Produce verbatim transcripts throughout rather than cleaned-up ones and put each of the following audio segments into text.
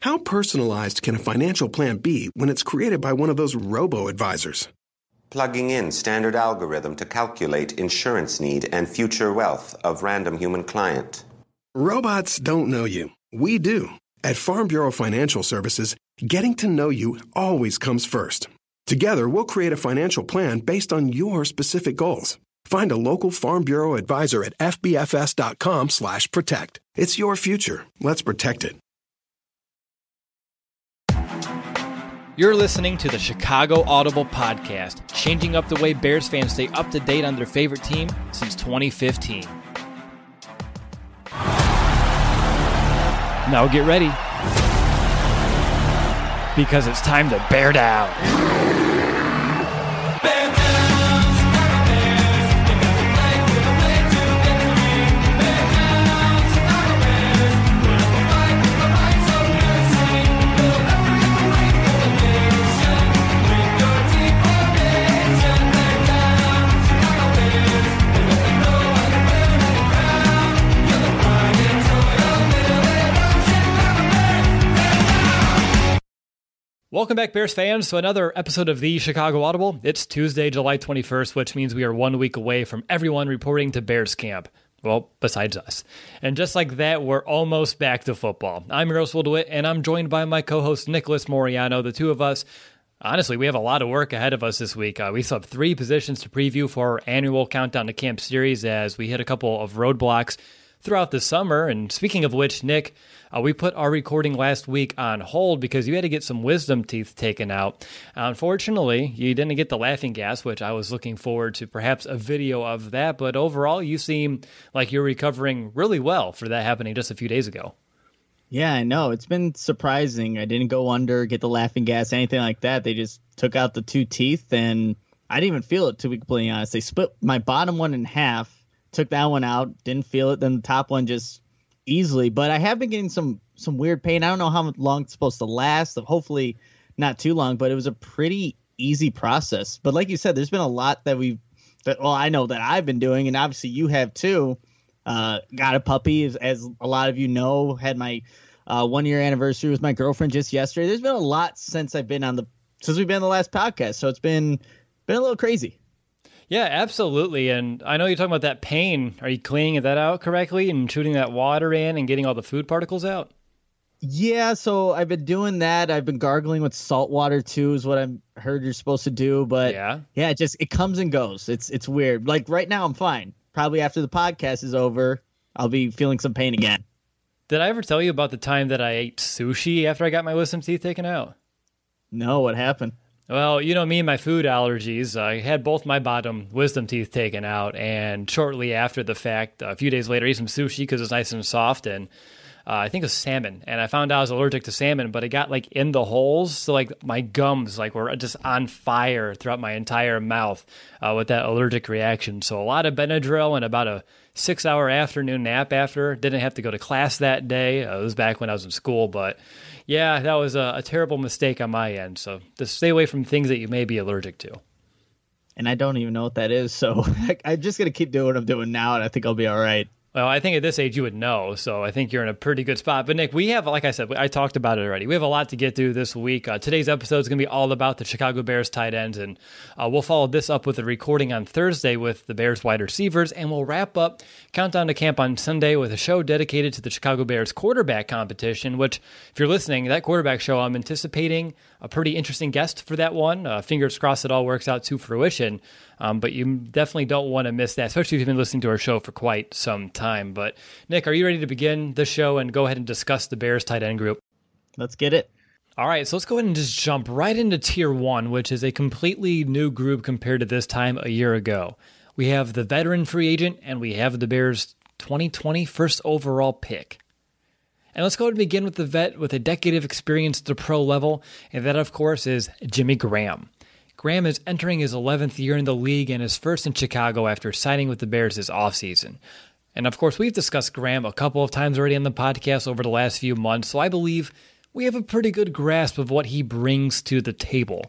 How personalized can a financial plan be when it's created by one of those robo-advisors? Plugging in standard algorithm to calculate insurance need and future wealth of random human client. Robots don't know you. We do. At Farm Bureau Financial Services, getting to know you always comes first. Together, we'll create a financial plan based on your specific goals. Find a local Farm Bureau advisor at f b f s dot com slash protect. It's your future. Let's protect it. You're listening to the Chicago Audible Podcast, changing up the way Bears fans stay up to date on their favorite team since twenty fifteen. Now get ready, because it's time to bear down. Welcome back, Bears fans, to another episode of the Chicago Audible. It's Tuesday, July twenty-first, which means we are one week away from everyone reporting to Bears camp. Well, besides us. And just like that, we're almost back to football. I'm Russell DeWitt, and I'm joined by my co-host Nicholas Moriano. The two of us, honestly, we have a lot of work ahead of us this week. Uh, we still have three positions to preview for our annual Countdown to Camp series as we hit a couple of roadblocks throughout the summer. And speaking of which, Nick, uh, we put our recording last week on hold because you had to get some wisdom teeth taken out. Uh, unfortunately, you didn't get the laughing gas, which I was looking forward to perhaps a video of that. But overall, you seem like you're recovering really well for that happening just a few days ago. Yeah, I know. It's been surprising. I didn't go under, get the laughing gas, anything like that. They just took out the two teeth, and I didn't even feel it, to be completely honest. They split my bottom one in half. Took that one out, didn't feel it. Then the top one just easily. But I have been getting some some weird pain. I don't know how long it's supposed to last. Hopefully not too long, but it was a pretty easy process. But like you said, there's been a lot that we've, that, well, I know that I've been doing, and obviously you have too. Uh, got a puppy, as, as a lot of you know, had my uh, one year anniversary with my girlfriend just yesterday. There's been a lot since I've been on the, since we've been on the last podcast. So it's been, been a little crazy. Yeah, absolutely. And I know you're talking about that pain. Are you cleaning that out correctly and shooting that water in and getting all the food particles out? Yeah, so I've been doing that. I've been gargling with salt water too, is what I've heard you're supposed to do. But yeah, yeah, it just it comes and goes. It's it's weird. Like right now, I'm fine. Probably after the podcast is over, I'll be feeling some pain again. Did I ever tell you about the time that I ate sushi after I got my wisdom teeth taken out? No, what happened? Well, you know me and my food allergies. I had both my bottom wisdom teeth taken out, and shortly after the fact, a few days later, I ate some sushi because it's nice and soft, and uh, I think it was salmon. And I found out I was allergic to salmon, but it got like in the holes, so like my gums like were just on fire throughout my entire mouth uh, with that allergic reaction. So a lot of Benadryl and about a six-hour afternoon nap after. Didn't have to go to class that day. Uh, it was back when I was in school, but yeah, that was a, a terrible mistake on my end. So just stay away from things that you may be allergic to. And I don't even know what that is, so I'm just going to keep doing what I'm doing now, and I think I'll be all right. Well, I think at this age you would know, so I think you're in a pretty good spot. But Nick, we have, like I said, I talked about it already. We have a lot to get through this week. Uh, today's episode is going to be all about the Chicago Bears tight ends, and uh, we'll follow this up with a recording on Thursday with the Bears wide receivers, and we'll wrap up Countdown to Camp on Sunday with a show dedicated to the Chicago Bears quarterback competition, which, if you're listening, that quarterback show, I'm anticipating a pretty interesting guest for that one. Uh, fingers crossed it all works out to fruition. Um, but you definitely don't want to miss that, especially if you've been listening to our show for quite some time. But Nick, are you ready to begin the show and go ahead and discuss the Bears tight end group? Let's get it. All right, so let's go ahead and just jump right into tier one, which is a completely new group compared to this time a year ago. We have the veteran free agent, and we have the Bears twenty twenty first overall pick. And let's go ahead and begin with the vet with a decade of experience at the pro level, and that, of course, is Jimmy Graham. Graham is entering his eleventh year in the league and is first in Chicago after signing with the Bears this offseason. And of course, we've discussed Graham a couple of times already on the podcast over the last few months, so I believe we have a pretty good grasp of what he brings to the table.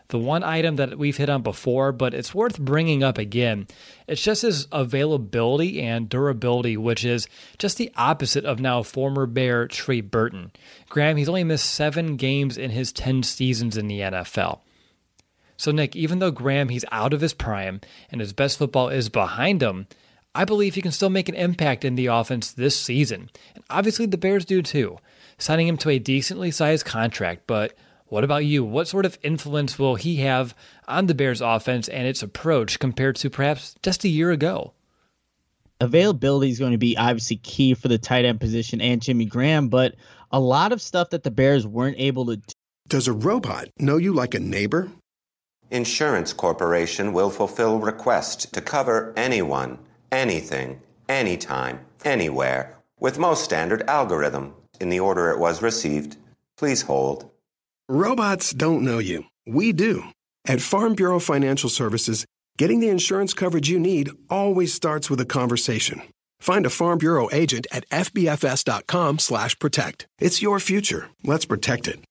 The one item that we've hit on before, but it's worth bringing up again, it's just his availability and durability, which is just the opposite of now former Bear Trey Burton. Graham, he's only missed seven games in his ten seasons in the N F L. So Nick, even though Graham, he's out of his prime and his best football is behind him, I believe he can still make an impact in the offense this season. And obviously the Bears do too, signing him to a decently sized contract, but what about you? What sort of influence will he have on the Bears offense and its approach compared to perhaps just a year ago? Availability is going to be obviously key for the tight end position and Jimmy Graham, but a lot of stuff that the Bears weren't able to do. Does a robot know you like a neighbor? Insurance Corporation will fulfill requests to cover anyone, anything, anytime, anywhere, with most standard algorithm in the order it was received. Please hold. Robots don't know you. We do. At Farm Bureau Financial Services, getting the insurance coverage you need always starts with a conversation. Find a Farm Bureau agent at fbfs.com slash protect. It's your future. Let's protect it.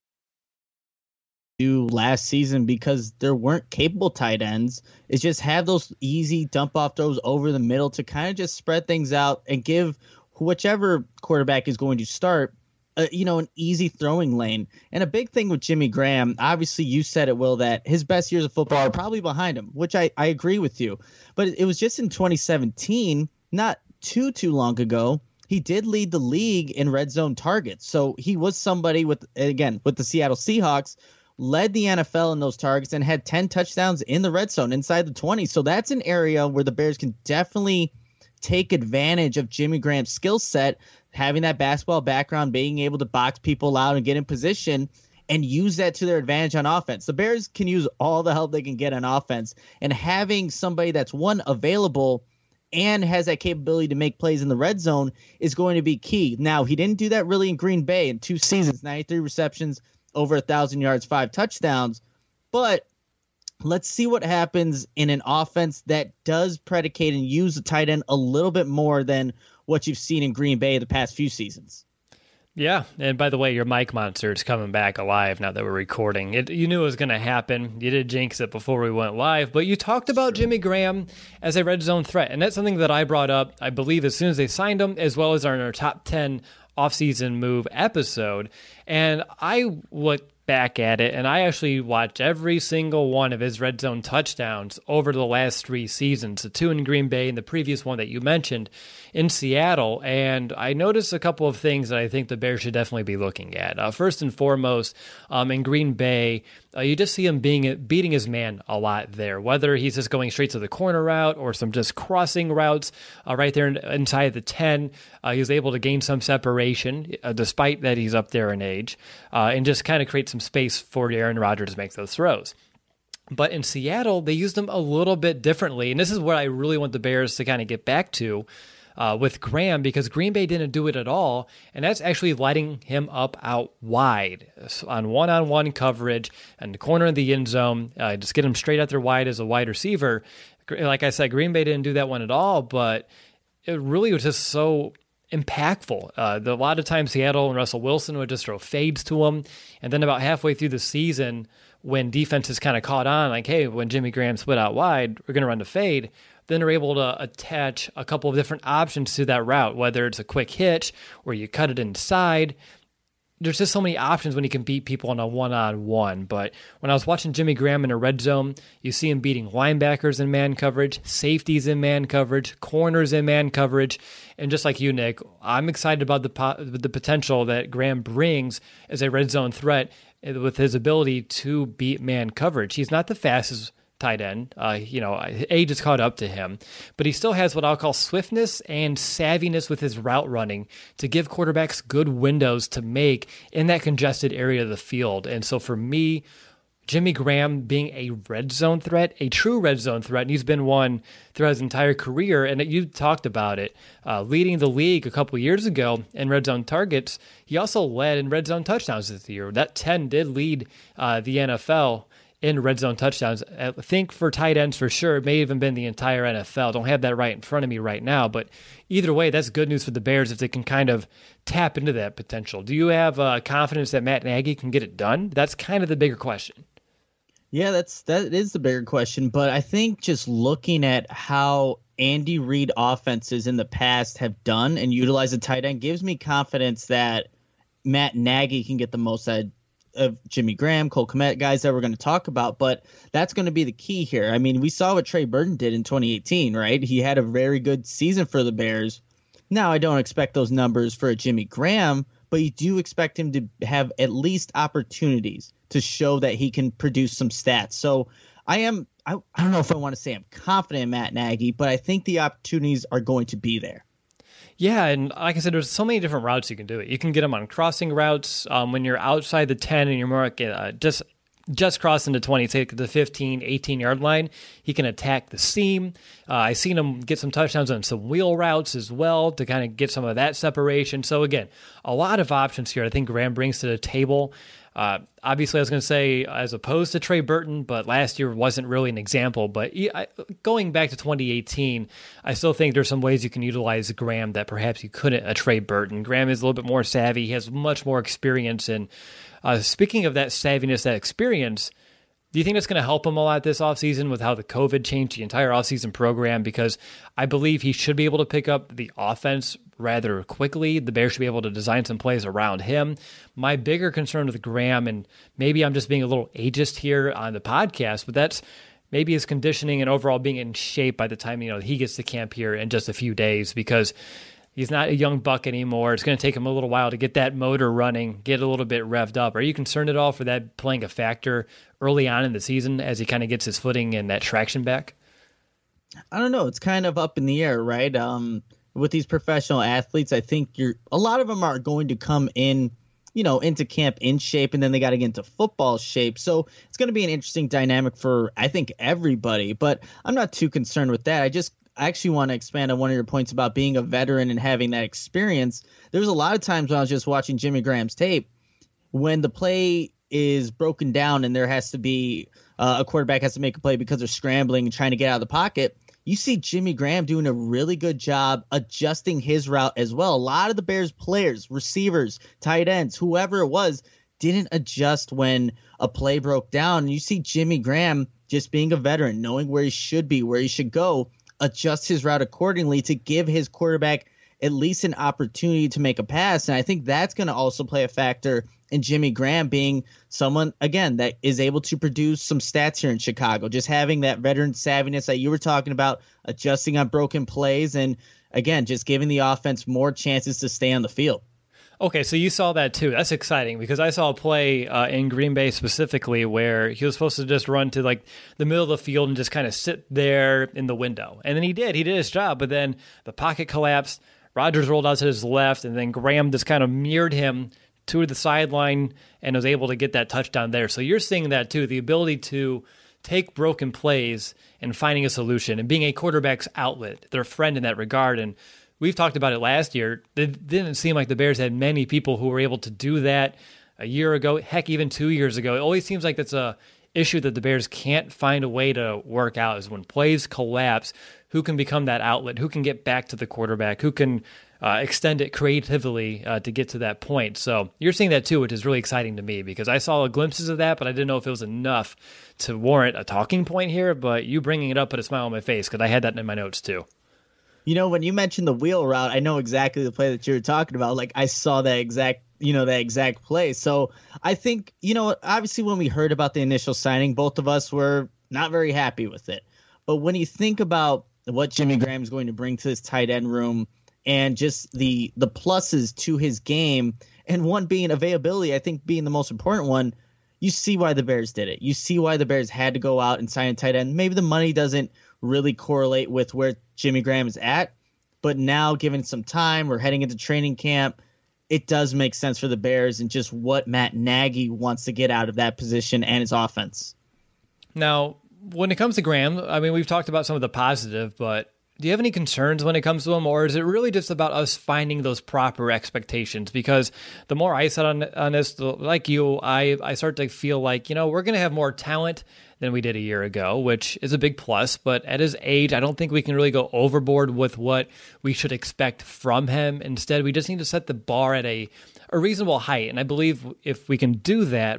Do last season because there weren't capable tight ends is just have those easy dump off throws over the middle to kind of just spread things out and give whichever quarterback is going to start Uh, you know, an easy throwing lane. And a big thing with Jimmy Graham, obviously you said it, Will, that his best years of football are probably behind him, which I, I agree with you. But it was just in twenty seventeen, not too, too long ago, he did lead the league in red zone targets. So he was somebody with, again, with the Seattle Seahawks, led the N F L in those targets and had ten touchdowns in the red zone inside the twenty. So that's an area where the Bears can definitely take advantage of Jimmy Graham's skill set, having that basketball background, being able to box people out and get in position and use that to their advantage on offense. The Bears can use all the help they can get on offense, and having somebody that's one available and has that capability to make plays in the red zone is going to be key. Now, he didn't do that really in Green Bay in two seasons, ninety-three receptions, over a thousand yards, five touchdowns, but let's see what happens in an offense that does predicate and use the tight end a little bit more than what you've seen in Green Bay the past few seasons. Yeah, and by the way, your mic monster is coming back alive now that we're recording. It, you knew it was going to happen. You did jinx it before we went live, but you talked about Jimmy Graham as a red zone threat, and that's something that I brought up, I believe, as soon as they signed him, as well as our, our top ten offseason move episode. And I looked back at it, and I actually watched every single one of his red zone touchdowns over the last three seasons, the two in Green Bay and the previous one that you mentioned in Seattle, and I noticed a couple of things that I think the Bears should definitely be looking at. Uh, first and foremost, um, in Green Bay, uh, you just see him being beating his man a lot there, whether he's just going straight to the corner route or some just crossing routes uh, right there in, inside the ten. Uh, he was able to gain some separation, uh, despite that he's up there in age, uh, and just kind of create some space for Aaron Rodgers to make those throws. But in Seattle, they used him a little bit differently, and this is what I really want the Bears to kind of get back to uh, with Graham, because Green Bay didn't do it at all, and that's actually lighting him up out wide on one-on-one coverage and the corner of the end zone. Uh, just get him straight out there wide as a wide receiver. Like I said, Green Bay didn't do that one at all, but it really was just so impactful. Uh, the, a lot of times Seattle and Russell Wilson would just throw fades to him, and then about halfway through the season, when defenses kind of caught on, like, hey, when Jimmy Graham split out wide, we're going to run the fade, then they're able to attach a couple of different options to that route, whether it's a quick hitch or you cut it inside. There's just so many options when you can beat people on a one-on-one. But when I was watching Jimmy Graham in a red zone, you see him beating linebackers in man coverage, safeties in man coverage, corners in man coverage. And just like you, Nick, I'm excited about the po- the potential that Graham brings as a red zone threat with his ability to beat man coverage. He's not the fastest tight end. Uh, you know, age has caught up to him, but he still has what I'll call swiftness and savviness with his route running to give quarterbacks good windows to make in that congested area of the field. And so for me, Jimmy Graham being a red zone threat, a true red zone threat, and he's been one throughout his entire career, and you talked about it, uh, leading the league a couple years ago in red zone targets. He also led in red zone touchdowns this year. That ten did lead uh, the N F L in red zone touchdowns. I think for tight ends for sure, it may even been the entire N F L. Don't have that right in front of me right now, but either way, that's good news for the Bears if they can kind of tap into that potential. Do you have uh, confidence that Matt Nagy can get it done? That's kind of the bigger question. Yeah, that's that is the bigger question. But I think just looking at how Andy Reid offenses in the past have done and utilized a tight end gives me confidence that Matt Nagy can get the most out of Jimmy Graham, Cole Kmet, guys that we're going to talk about. But that's going to be the key here. I mean, we saw what Trey Burton did in twenty eighteen, right? He had a very good season for the Bears. Now, I don't expect those numbers for a Jimmy Graham, but you do expect him to have at least opportunities to show that he can produce some stats. So I am, I, I don't know if I want to say I'm confident in Matt Nagy, but I think the opportunities are going to be there. Yeah, and like I said, there's so many different routes you can do it. You can get them on crossing routes um, when you're outside the ten and you're more like, uh, just just crossing the twenty, say the fifteen, eighteen-yard line. He can attack the seam. Uh, I've seen him get some touchdowns on some wheel routes as well to kind of get some of that separation. So again, a lot of options here I think Graham brings to the table. Uh, obviously, I was going to say as opposed to Trey Burton, but last year wasn't really an example. But going back to twenty eighteen, I still think there's some ways you can utilize Graham that perhaps you couldn't a Trey Burton. Graham is a little bit more savvy. He has much more experience. And uh, speaking of that savviness, that experience, do you think that's going to help him a lot this offseason with how the COVID changed the entire offseason program? Because I believe he should be able to pick up the offense rather quickly. The Bears should be able to design some plays around him. My bigger concern with Graham, and maybe I'm just being a little ageist here on the podcast, but that's maybe his conditioning and overall being in shape by the time, you know, he gets to camp here in just a few days, because he's not a young buck anymore. It's going to take him a little while to get that motor running, get a little bit revved up. Are you concerned at all for that playing a factor early on in the season as he kind of gets his footing and that traction back? I don't know. It's kind of up in the air, right? Um, with these professional athletes, I think you're a lot of them are going to come in, you know, into camp in shape, and then they got to get into football shape. So it's going to be an interesting dynamic for, I think, everybody. But I'm not too concerned with that. I just I actually want to expand on one of your points about being a veteran and having that experience. There's a lot of times when I was just watching Jimmy Graham's tape, when the play is broken down and there has to be uh, a quarterback has to make a play because they're scrambling and trying to get out of the pocket, you see Jimmy Graham doing a really good job adjusting his route as well. A lot of the Bears players, receivers, tight ends, whoever it was, didn't adjust when a play broke down. And you see Jimmy Graham just being a veteran, knowing where he should be, where he should go, adjust his route accordingly to give his quarterback at least an opportunity to make a pass. And I think that's going to also play a factor in Jimmy Graham being someone, again, that is able to produce some stats here in Chicago, just having that veteran savviness that you were talking about, adjusting on broken plays, and, again, just giving the offense more chances to stay on the field. Okay, so you saw that too. That's exciting, because I saw a play uh, in Green Bay specifically where he was supposed to just run to like the middle of the field and just kind of sit there in the window. And then he did. He did his job, but then the pocket collapsed. Rodgers rolled out to his left, and then Graham just kind of mirrored him to the sideline and was able to get that touchdown there. So you're seeing that too, the ability to take broken plays and finding a solution and being a quarterback's outlet, their friend in that regard. And we've talked about it last year. It didn't seem like the Bears had many people who were able to do that a year ago, heck, even two years ago. It always seems like that's a issue that the Bears can't find a way to work out, is when plays collapse, who can become that outlet, who can get back to the quarterback, who can uh, extend it creatively uh, to get to that point. So you're seeing that too, which is really exciting to me, because I saw glimpses of that, but I didn't know if it was enough to warrant a talking point here. But you bringing it up put a smile on my face, because I had that in my notes too. You know, when you mentioned the wheel route, I know exactly the play that you were talking about. Like, I saw that exact, you know, that exact play. So I think, you know, obviously when we heard about the initial signing, both of us were not very happy with it. But when you think about what Jimmy Graham is going to bring to this tight end room and just the the pluses to his game, and one being availability, I think being the most important one, you see why the Bears did it. You see why the Bears had to go out and sign a tight end. Maybe the money doesn't really correlate with where Jimmy Graham is at, but now given some time, we're heading into training camp, it does make sense for the Bears and just what Matt Nagy wants to get out of that position and his offense. Now, when it comes to Graham, I mean, we've talked about some of the positive, but do you have any concerns when it comes to him, or is it really just about us finding those proper expectations? Because the more I said on, on this, like you, I, I start to feel like, you know, we're going to have more talent than we did a year ago, which is a big plus. But at his age, I don't think we can really go overboard with what we should expect from him. Instead, we just need to set the bar at a, a reasonable height. And I believe if we can do that,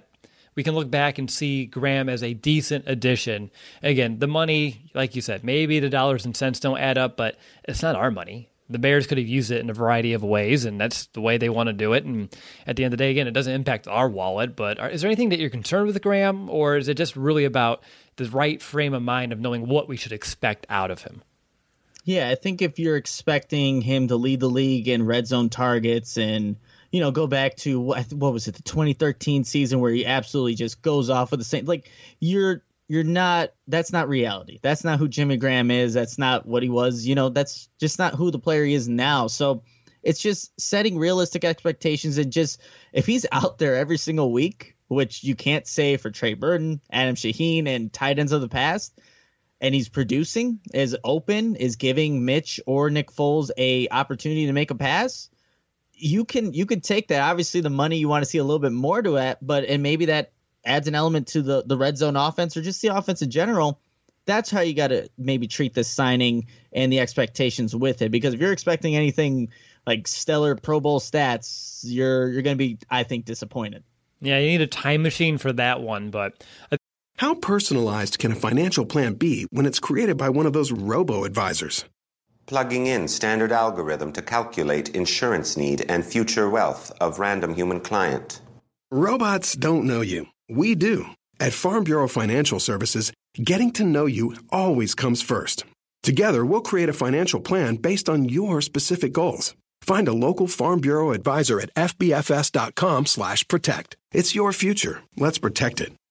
we can look back and see Graham as a decent addition. Again, the money, like you said, maybe the dollars and cents don't add up, but it's not our money. The Bears could have used it in a variety of ways, and that's the way they want to do it. And at the end of the day, again, it doesn't impact our wallet. But are, is there anything that you're concerned with Graham, or is it just really about the right frame of mind of knowing what we should expect out of him? Yeah, I think if you're expecting him to lead the league in red zone targets and, you know, go back to, what, what was it, the twenty thirteen season where he absolutely just goes off with the same, like, you're You're not, that's not reality. That's not who Jimmy Graham is. That's not what he was. You know, that's just not who the player he is now. So it's just setting realistic expectations and just, if he's out there every single week, which you can't say for Trey Burton, Adam Shaheen, and tight ends of the past, and he's producing, is open, is giving Mitch or Nick Foles a opportunity to make a pass, you can, you can take that. Obviously the money, you want to see a little bit more to it, but, and maybe that adds an element to the, the red zone offense or just the offense in general. That's how you got to maybe treat this signing and the expectations with it. Because if you're expecting anything like stellar Pro Bowl stats, you're you're going to be, I think, disappointed. Yeah, you need a time machine for that one. But how personalized can a financial plan be when it's created by one of those robo-advisors? Plugging in standard algorithm to calculate insurance need and future wealth of random human client. Robots don't know you. We do. At Farm Bureau Financial Services, getting to know you always comes first. Together, we'll create a financial plan based on your specific goals. Find a local Farm Bureau advisor at fbfs.com slash protect. It's your future. Let's protect it.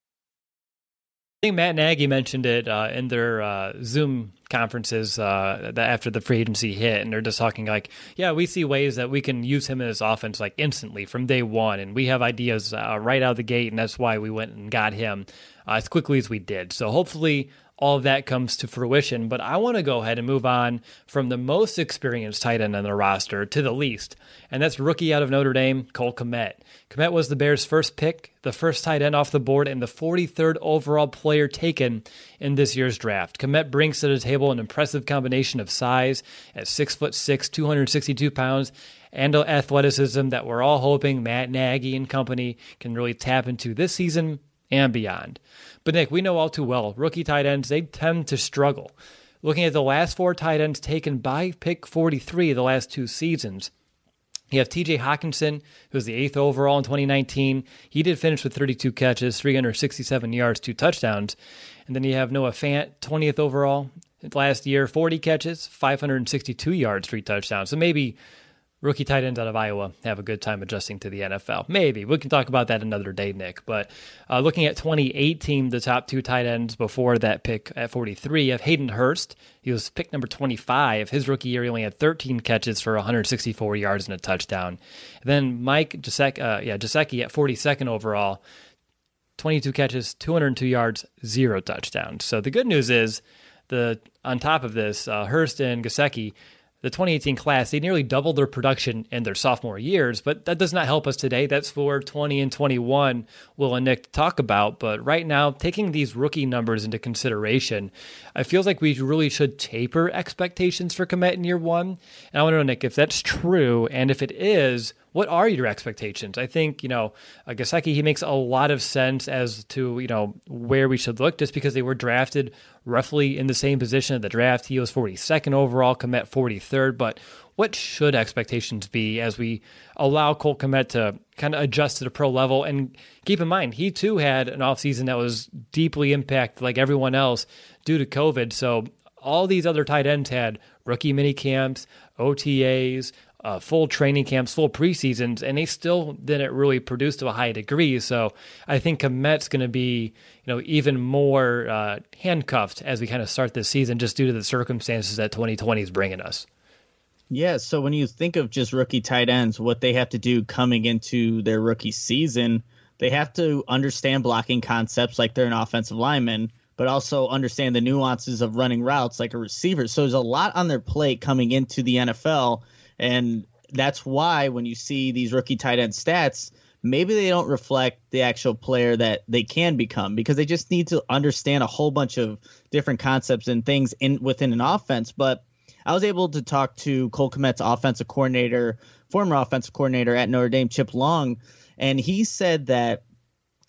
I think Matt Nagy mentioned it uh, in their uh, Zoom conferences uh, that after the free agency hit, and they're just talking like, yeah, we see ways that we can use him in this offense like instantly from day one, and we have ideas uh, right out of the gate, and that's why we went and got him uh, as quickly as we did. So hopefully all of that comes to fruition, but I want to go ahead and move on from the most experienced tight end on the roster to the least, and that's rookie out of Notre Dame, Cole Kmet. Kmet was the Bears' first pick, the first tight end off the board, and the forty-third overall player taken in this year's draft. Kmet brings to the table an impressive combination of size at six foot six, two hundred sixty-two pounds, and athleticism that we're all hoping Matt Nagy and company can really tap into this season and beyond. But Nick, we know all too well, rookie tight ends, they tend to struggle. Looking at the last four tight ends taken by pick forty-three the last two seasons, you have T J Hockenson, who was the eighth overall in twenty nineteen. He did finish with thirty-two catches, three hundred sixty-seven yards, two touchdowns. And then you have Noah Fant, twentieth overall last year, forty catches, five hundred sixty-two yards, three touchdowns. So maybe rookie tight ends out of Iowa have a good time adjusting to the N F L. Maybe. We can talk about that another day, Nick. But uh, looking at twenty eighteen, the top two tight ends before that pick at forty-three, you have Hayden Hurst. He was pick number twenty-five. His rookie year, he only had thirteen catches for one hundred sixty-four yards and a touchdown. And then Mike Gesicki, uh, yeah, Gesicki at forty-second overall, twenty-two catches, two hundred two yards, zero touchdowns. So the good news is, the on top of this, uh, Hurst and Gesicki, the twenty eighteen class, they nearly doubled their production in their sophomore years, but that does not help us today. That's for twenty and twenty-one, Will and Nick talk about. But right now, taking these rookie numbers into consideration, it feels like we really should taper expectations for Kmet in year one. And I want to know, Nick, if that's true, and if it is, what are your expectations? I think, you know, uh, Gesicki, he makes a lot of sense as to, you know, where we should look, just because they were drafted roughly in the same position at the draft. He was forty-second overall, Kmet forty-third. But what should expectations be as we allow Cole Kmet to kind of adjust to the pro level? And keep in mind, he too had an offseason that was deeply impacted like everyone else due to COVID. So all these other tight ends had rookie mini camps, O T As, Uh, full training camps, full preseasons, and they still didn't really produce to a high degree. So I think Kmet's going to be, you know, even more uh, handcuffed as we kind of start this season, just due to the circumstances that twenty twenty is bringing us. Yeah, so when you think of just rookie tight ends, what they have to do coming into their rookie season, they have to understand blocking concepts like they're an offensive lineman, but also understand the nuances of running routes like a receiver. So there's a lot on their plate coming into the N F L. And that's why when you see these rookie tight end stats, maybe they don't reflect the actual player that they can become, because they just need to understand a whole bunch of different concepts and things in within an offense. But I was able to talk to Cole Kmet's offensive coordinator, former offensive coordinator at Notre Dame, Chip Long, and he said that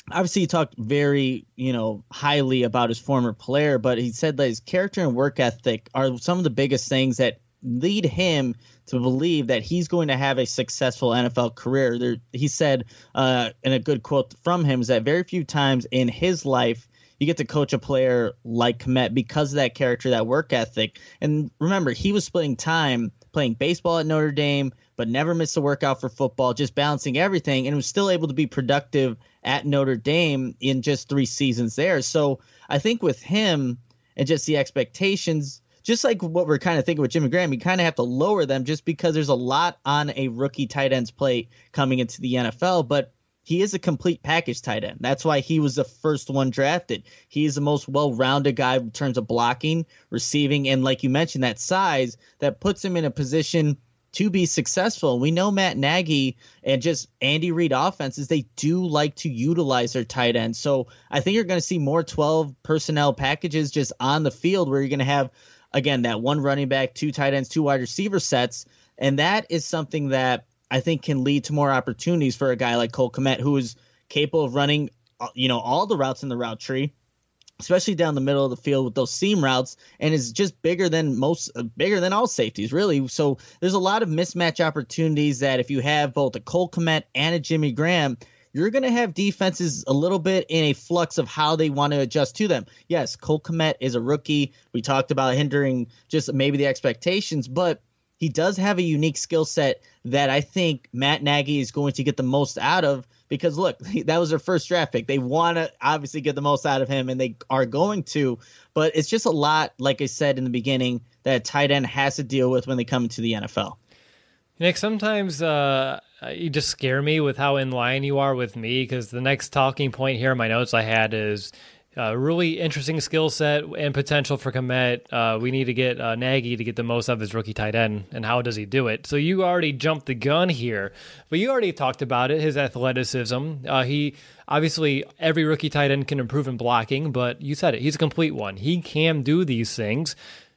obviously he talked very, you know, highly about his former player, but he said that his character and work ethic are some of the biggest things that lead him to believe that he's going to have a successful N F L career. There, he said, uh, and a good quote from him is that very few times in his life you get to coach a player like Kmet because of that character, that work ethic. And remember, he was splitting time playing baseball at Notre Dame, but never missed a workout for football, just balancing everything, and was still able to be productive at Notre Dame in just three seasons there. So I think with him and just the expectations, just like what we're kind of thinking with Jimmy Graham, you kind of have to lower them just because there's a lot on a rookie tight end's plate coming into the N F L. But he is a complete package tight end. That's why he was the first one drafted. He is the most well-rounded guy in terms of blocking, receiving, and like you mentioned, that size that puts him in a position to be successful. We know Matt Nagy and just Andy Reid offenses, they do like to utilize their tight ends. So I think you're going to see more twelve personnel packages just on the field where you're going to have, again, that one running back, two tight ends, two wide receiver sets. And that is something that I think can lead to more opportunities for a guy like Cole Kmet, who is capable of running, you know, all the routes in the route tree, especially down the middle of the field with those seam routes, and is just bigger than most, uh, bigger than all safeties, really. So there's a lot of mismatch opportunities that if you have both a Cole Kmet and a Jimmy Graham, you're going to have defenses a little bit in a flux of how they want to adjust to them. Yes, Cole Kmet is a rookie. We talked about hindering just maybe the expectations, but he does have a unique skill set that I think Matt Nagy is going to get the most out of because, look, that was their first draft pick. They want to obviously get the most out of him, and they are going to. But it's just a lot, like I said in the beginning, that a tight end has to deal with when they come into the N F L. Nick, sometimes uh, you just scare me with how in line you are with me because the next talking point here in my notes I had is Uh, really interesting skill set and potential for Kmet. Uh, we need to get uh, Nagy to get the most of his rookie tight end, and how does he do it? So you already jumped the gun here, but you already talked about it, his athleticism. Uh, he obviously, every rookie tight end can improve in blocking, but you said it, he's a complete one. He can do these things.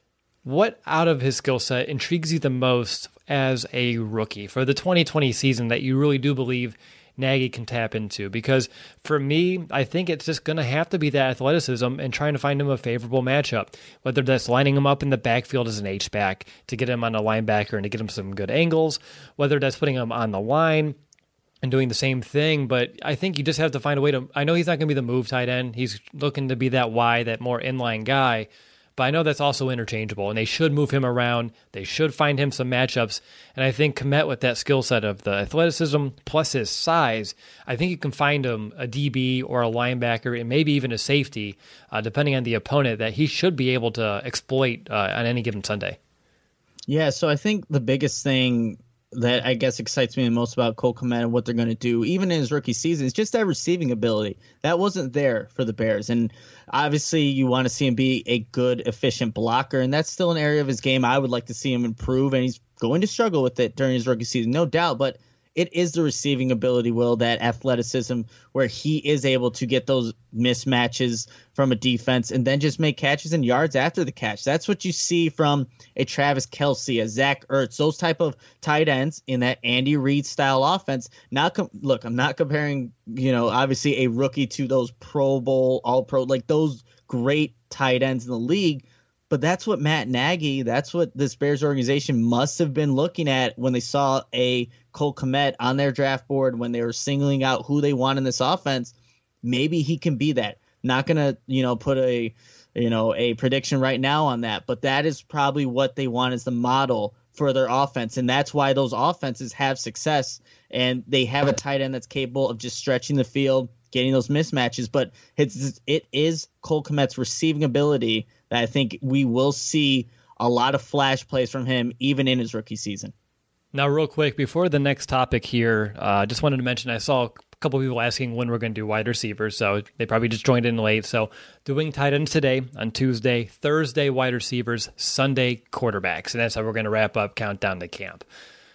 What out of his skill set intrigues you the most as a rookie for the twenty twenty season that you really do believe Nagy can tap into? Because for me, I think it's just going to have to be that athleticism and trying to find him a favorable matchup, whether that's lining him up in the backfield as an H-back to get him on a linebacker and to get him some good angles, whether that's putting him on the line and doing the same thing. But I think you just have to find a way to, I know he's not going to be the move tight end. He's looking to be that wide, that more inline guy. But I know that's also interchangeable, and they should move him around. They should find him some matchups. And I think Kmet, with that skill set of the athleticism plus his size, I think you can find him a D B or a linebacker and maybe even a safety, uh, depending on the opponent, that he should be able to exploit uh, on any given Sunday. Yeah, so I think the biggest thing that I guess excites me the most about Cole Kmet and what they're going to do, even in his rookie season, is just that receiving ability. That wasn't there for the Bears. And obviously you want to see him be a good, efficient blocker, and that's still an area of his game I would like to see him improve, and he's going to struggle with it during his rookie season, no doubt, but it is the receiving ability, Will, that athleticism where he is able to get those mismatches from a defense and then just make catches and yards after the catch. That's what you see from a Travis Kelce, a Zach Ertz, those type of tight ends in that Andy Reid style offense. Not com- look, I'm not comparing, you know, obviously a rookie to those Pro Bowl, all pro, like those great tight ends in the league. But that's what Matt Nagy, that's what this Bears organization must have been looking at when they saw a Cole Kmet on their draft board, when they were singling out who they want in this offense. Maybe he can be that. Not going to, you know, put a, you know, a prediction right now on that, but that is probably what they want as the model for their offense. And that's why those offenses have success, and they have a tight end that's capable of just stretching the field, getting those mismatches. But it's, it is Cole Kmet's receiving ability that I think we will see a lot of flash plays from him even in his rookie season. Now, real quick, before the next topic here, I uh, just wanted to mention I saw a couple people asking when we're going to do wide receivers, so they probably just joined in late. So doing tight ends today on Tuesday, Thursday wide receivers, Sunday quarterbacks, and that's how we're going to wrap up Countdown to Camp.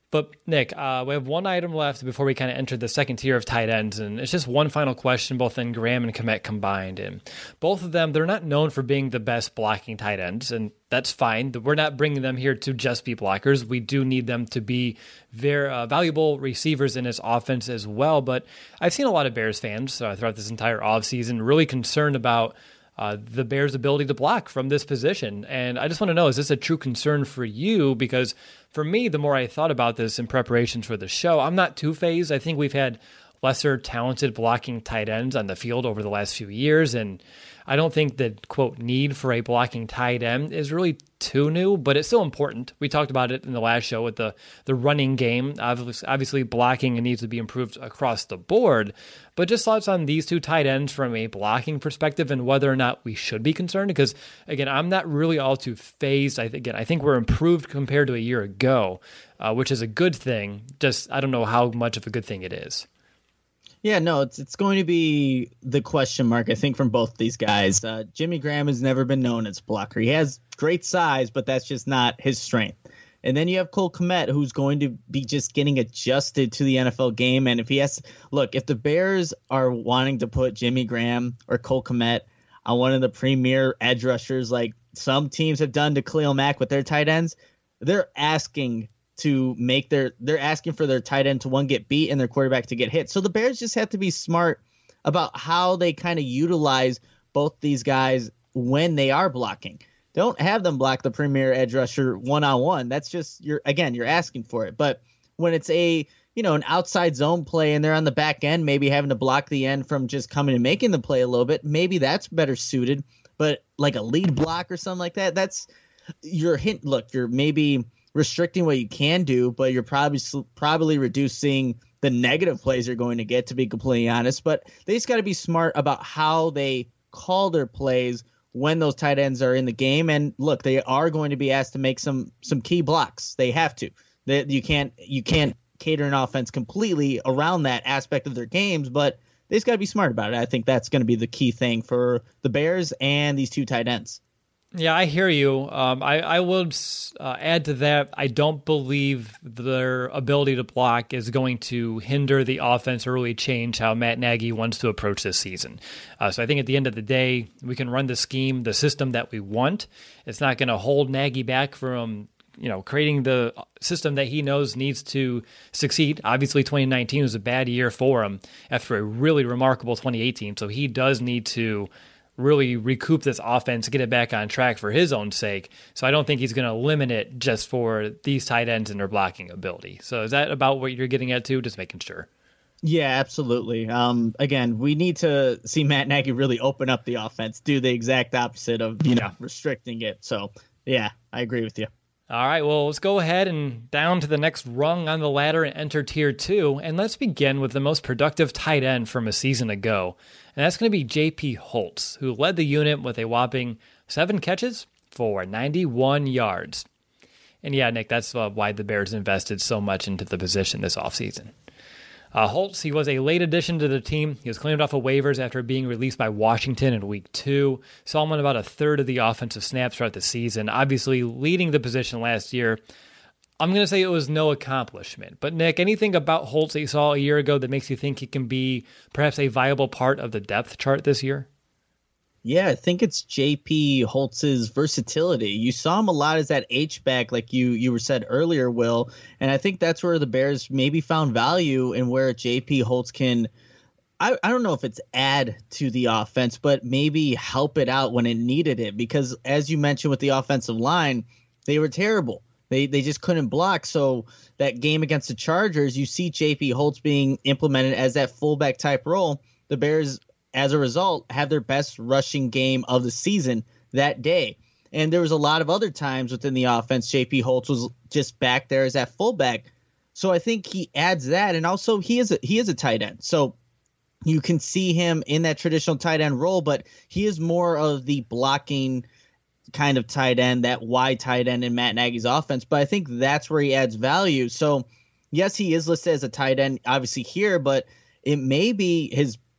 But Nick, uh, we have one item left before we kind of enter the second tier of tight ends, and it's just one final question, both in Graham and Kmet combined. And both of them, they're not known for being the best blocking tight ends, and that's fine. We're not bringing them here to just be blockers. We do need them to be very uh, valuable receivers in this offense as well. But I've seen a lot of Bears fans uh, throughout this entire offseason really concerned about Uh, the Bears' ability to block from this position. And I just want to know, is this a true concern for you? Because for me, the more I thought about this in preparation for the show, I'm not too phased. I think we've had lesser talented blocking tight ends on the field over the last few years, and I don't think the, quote, need for a blocking tight end is really too new, but it's still important. We talked about it in the last show with the, the running game. Obviously, obviously, blocking needs to be improved across the board, but just thoughts on these two tight ends from a blocking perspective and whether or not we should be concerned, because, again, I'm not really all too phased. I, again, I think we're improved compared to a year ago, uh, which is a good thing. Just I don't know how much of a good thing it is. Yeah, no, it's it's going to be the question mark, I think, from both these guys. Uh, Jimmy Graham has never been known as a blocker. He has great size, but that's just not his strength. And then you have Cole Kmet, who's going to be just getting adjusted to the N F L game. And if he has, look, if the Bears are wanting to put Jimmy Graham or Cole Kmet on one of the premier edge rushers, like some teams have done to Khalil Mack with their tight ends, they're asking to make their, they're asking for their tight end to one get beat and their quarterback to get hit. So the Bears just have to be smart about how they kind of utilize both these guys when they are blocking. Don't have them block the premier edge rusher one-on-one. That's just, you're again, you're asking for it. But when it's a, you know, an outside zone play and they're on the back end, maybe having to block the end from just coming and making the play a little bit, maybe that's better suited. But like a lead block or something like that, that's your hint. Look, you're maybe restricting what you can do, but you're probably probably reducing the negative plays you're going to get, to be completely honest. But they just got to be smart about how they call their plays when those tight ends are in the game. And look, they are going to be asked to make some some key blocks. They have to. They, you can't you can't cater an offense completely around that aspect of their games, but they just got to be smart about it. I think that's going to be the key thing for the Bears and these two tight ends. Yeah, I hear you. Um, I, I would uh, add to that, I don't believe their ability to block is going to hinder the offense or really change how Matt Nagy wants to approach this season. Uh, so I think at the end of the day, we can run the scheme, the system that we want. It's not going to hold Nagy back from, you know, creating the system that he knows needs to succeed. Obviously, twenty nineteen was a bad year for him after a really remarkable twenty eighteen. So he does need to really recoup this offense, get it back on track for his own sake. So I don't think he's going to limit it just for these tight ends and their blocking ability. So is that about what you're getting at too? Just making sure. Yeah, absolutely. Um, again, we need to see Matt Nagy really open up the offense, do the exact opposite of, you know, restricting it. So yeah, I agree with you. All right, well, let's go ahead and down to the next rung on the ladder and enter tier two. And let's begin with the most productive tight end from a season ago. And that's going to be J P Holtz, who led the unit with a whopping seven catches for ninety-one yards. And yeah, Nick, that's uh, why the Bears invested so much into the position this offseason. Uh, Holtz, he was a late addition to the team. He was claimed off of waivers after being released by Washington in week two. Saw him on about a third of the offensive snaps throughout the season, obviously leading the position last year. I'm going to say it was no accomplishment. But Nick, anything about Holtz that you saw a year ago that makes you think he can be perhaps a viable part of the depth chart this year? Yeah, I think it's J P Holtz's versatility. You saw him a lot as that H-back, like you you were said earlier, Will. And I think that's where the Bears maybe found value in where J P Holtz can, I, I don't know if it's add to the offense, but maybe help it out when it needed it. Because as you mentioned with the offensive line, they were terrible. They they just couldn't block. So that game against the Chargers, you see J P Holtz being implemented as that fullback type role. The Bears, as a result, have their best rushing game of the season that day. And there was a lot of other times within the offense, J P Holtz was just back there as that fullback. So I think he adds that. And also he is a, he is a tight end. So you can see him in that traditional tight end role, but he is more of the blocking kind of tight end, that wide tight end in Matt Nagy's offense. But I think that's where he adds value. So yes, he is listed as a tight end, obviously here, but it may be his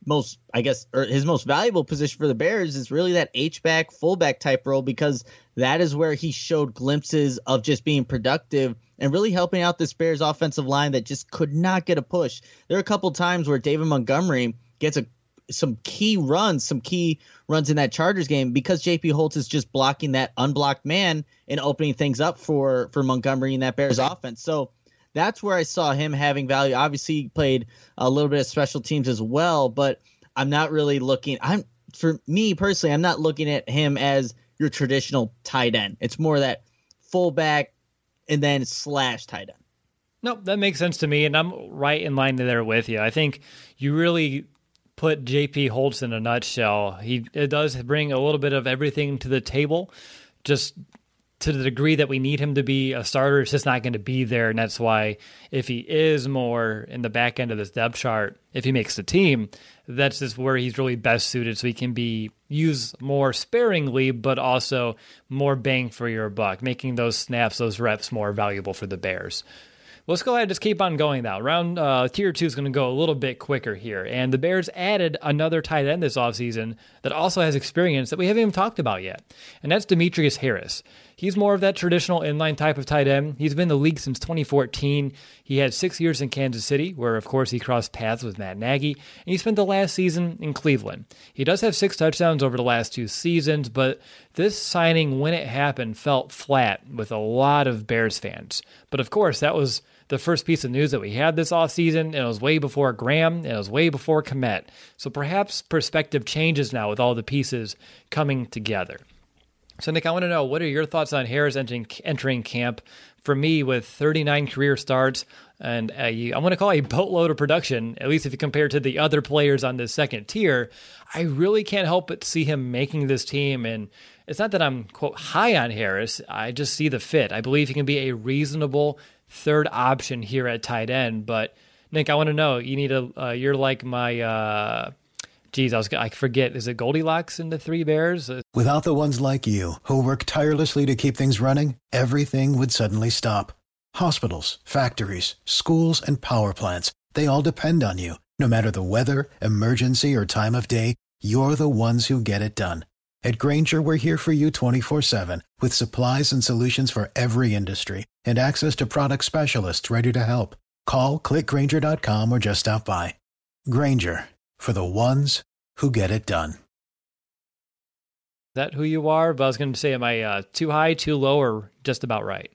most, I guess, or his most valuable position for the Bears is really that H-back, fullback type role, because that is where he showed glimpses of just being productive and really helping out this Bears offensive line that just could not get a push. There are a couple times where David Montgomery gets a some key runs, some key runs in that Chargers game because J P. Holtz is just blocking that unblocked man and opening things up for, for Montgomery in that Bears offense. So that's where I saw him having value. Obviously, he played a little bit of special teams as well, but I'm not really looking. I'm for me personally, I'm not looking at him as your traditional tight end. It's more that fullback and then slash tight end. Nope, that makes sense to me, and I'm right in line there with you. I think you really put J P. Holtz in a nutshell. He it does bring a little bit of everything to the table, just to the degree that we need him to be a starter. It's just not going to be there, and that's why if he is more in the back end of this depth chart, if he makes the team, that's just where he's really best suited, so he can be used more sparingly, but also more bang for your buck, making those snaps, those reps more valuable for the Bears. Let's go ahead and just keep on going now. Round uh, tier two is going to go a little bit quicker here. And the Bears added another tight end this offseason that also has experience that we haven't even talked about yet. And that's Demetrius Harris. He's more of that traditional inline type of tight end. He's been in the league since twenty fourteen. He had six years in Kansas City, where, of course, he crossed paths with Matt Nagy. And he spent the last season in Cleveland. He does have six touchdowns over the last two seasons, but this signing, when it happened, felt flat with a lot of Bears fans. But, of course, that was the first piece of news that we had this offseason, and it was way before Graham, and it was way before Kmet. So perhaps perspective changes now with all the pieces coming together. So, Nick, I want to know, what are your thoughts on Harris entering, entering camp? For me, with thirty-nine career starts and a, I'm going to call it a boatload of production, at least if you compare to the other players on this second tier, I really can't help but see him making this team. And it's not that I'm, quote, high on Harris. I just see the fit. I believe he can be a reasonable third option here at tight end. But, Nick, I want to know, you need a, uh, you're like my, uh, geez, I was, I forget, is it Goldilocks in the Three Bears? Without the ones like you, who work tirelessly to keep things running, everything would suddenly stop. Hospitals, factories, schools, and power plants, they all depend on you. No matter the weather, emergency, or time of day, you're the ones who get it done. At Grainger, we're here for you twenty-four seven, with supplies and solutions for every industry, and access to product specialists ready to help. Call, click Grainger dot com, or just stop by. Grainger, for the ones who get it done. Is that who you are? But I was going to say, am I uh, too high, too low, or just about right?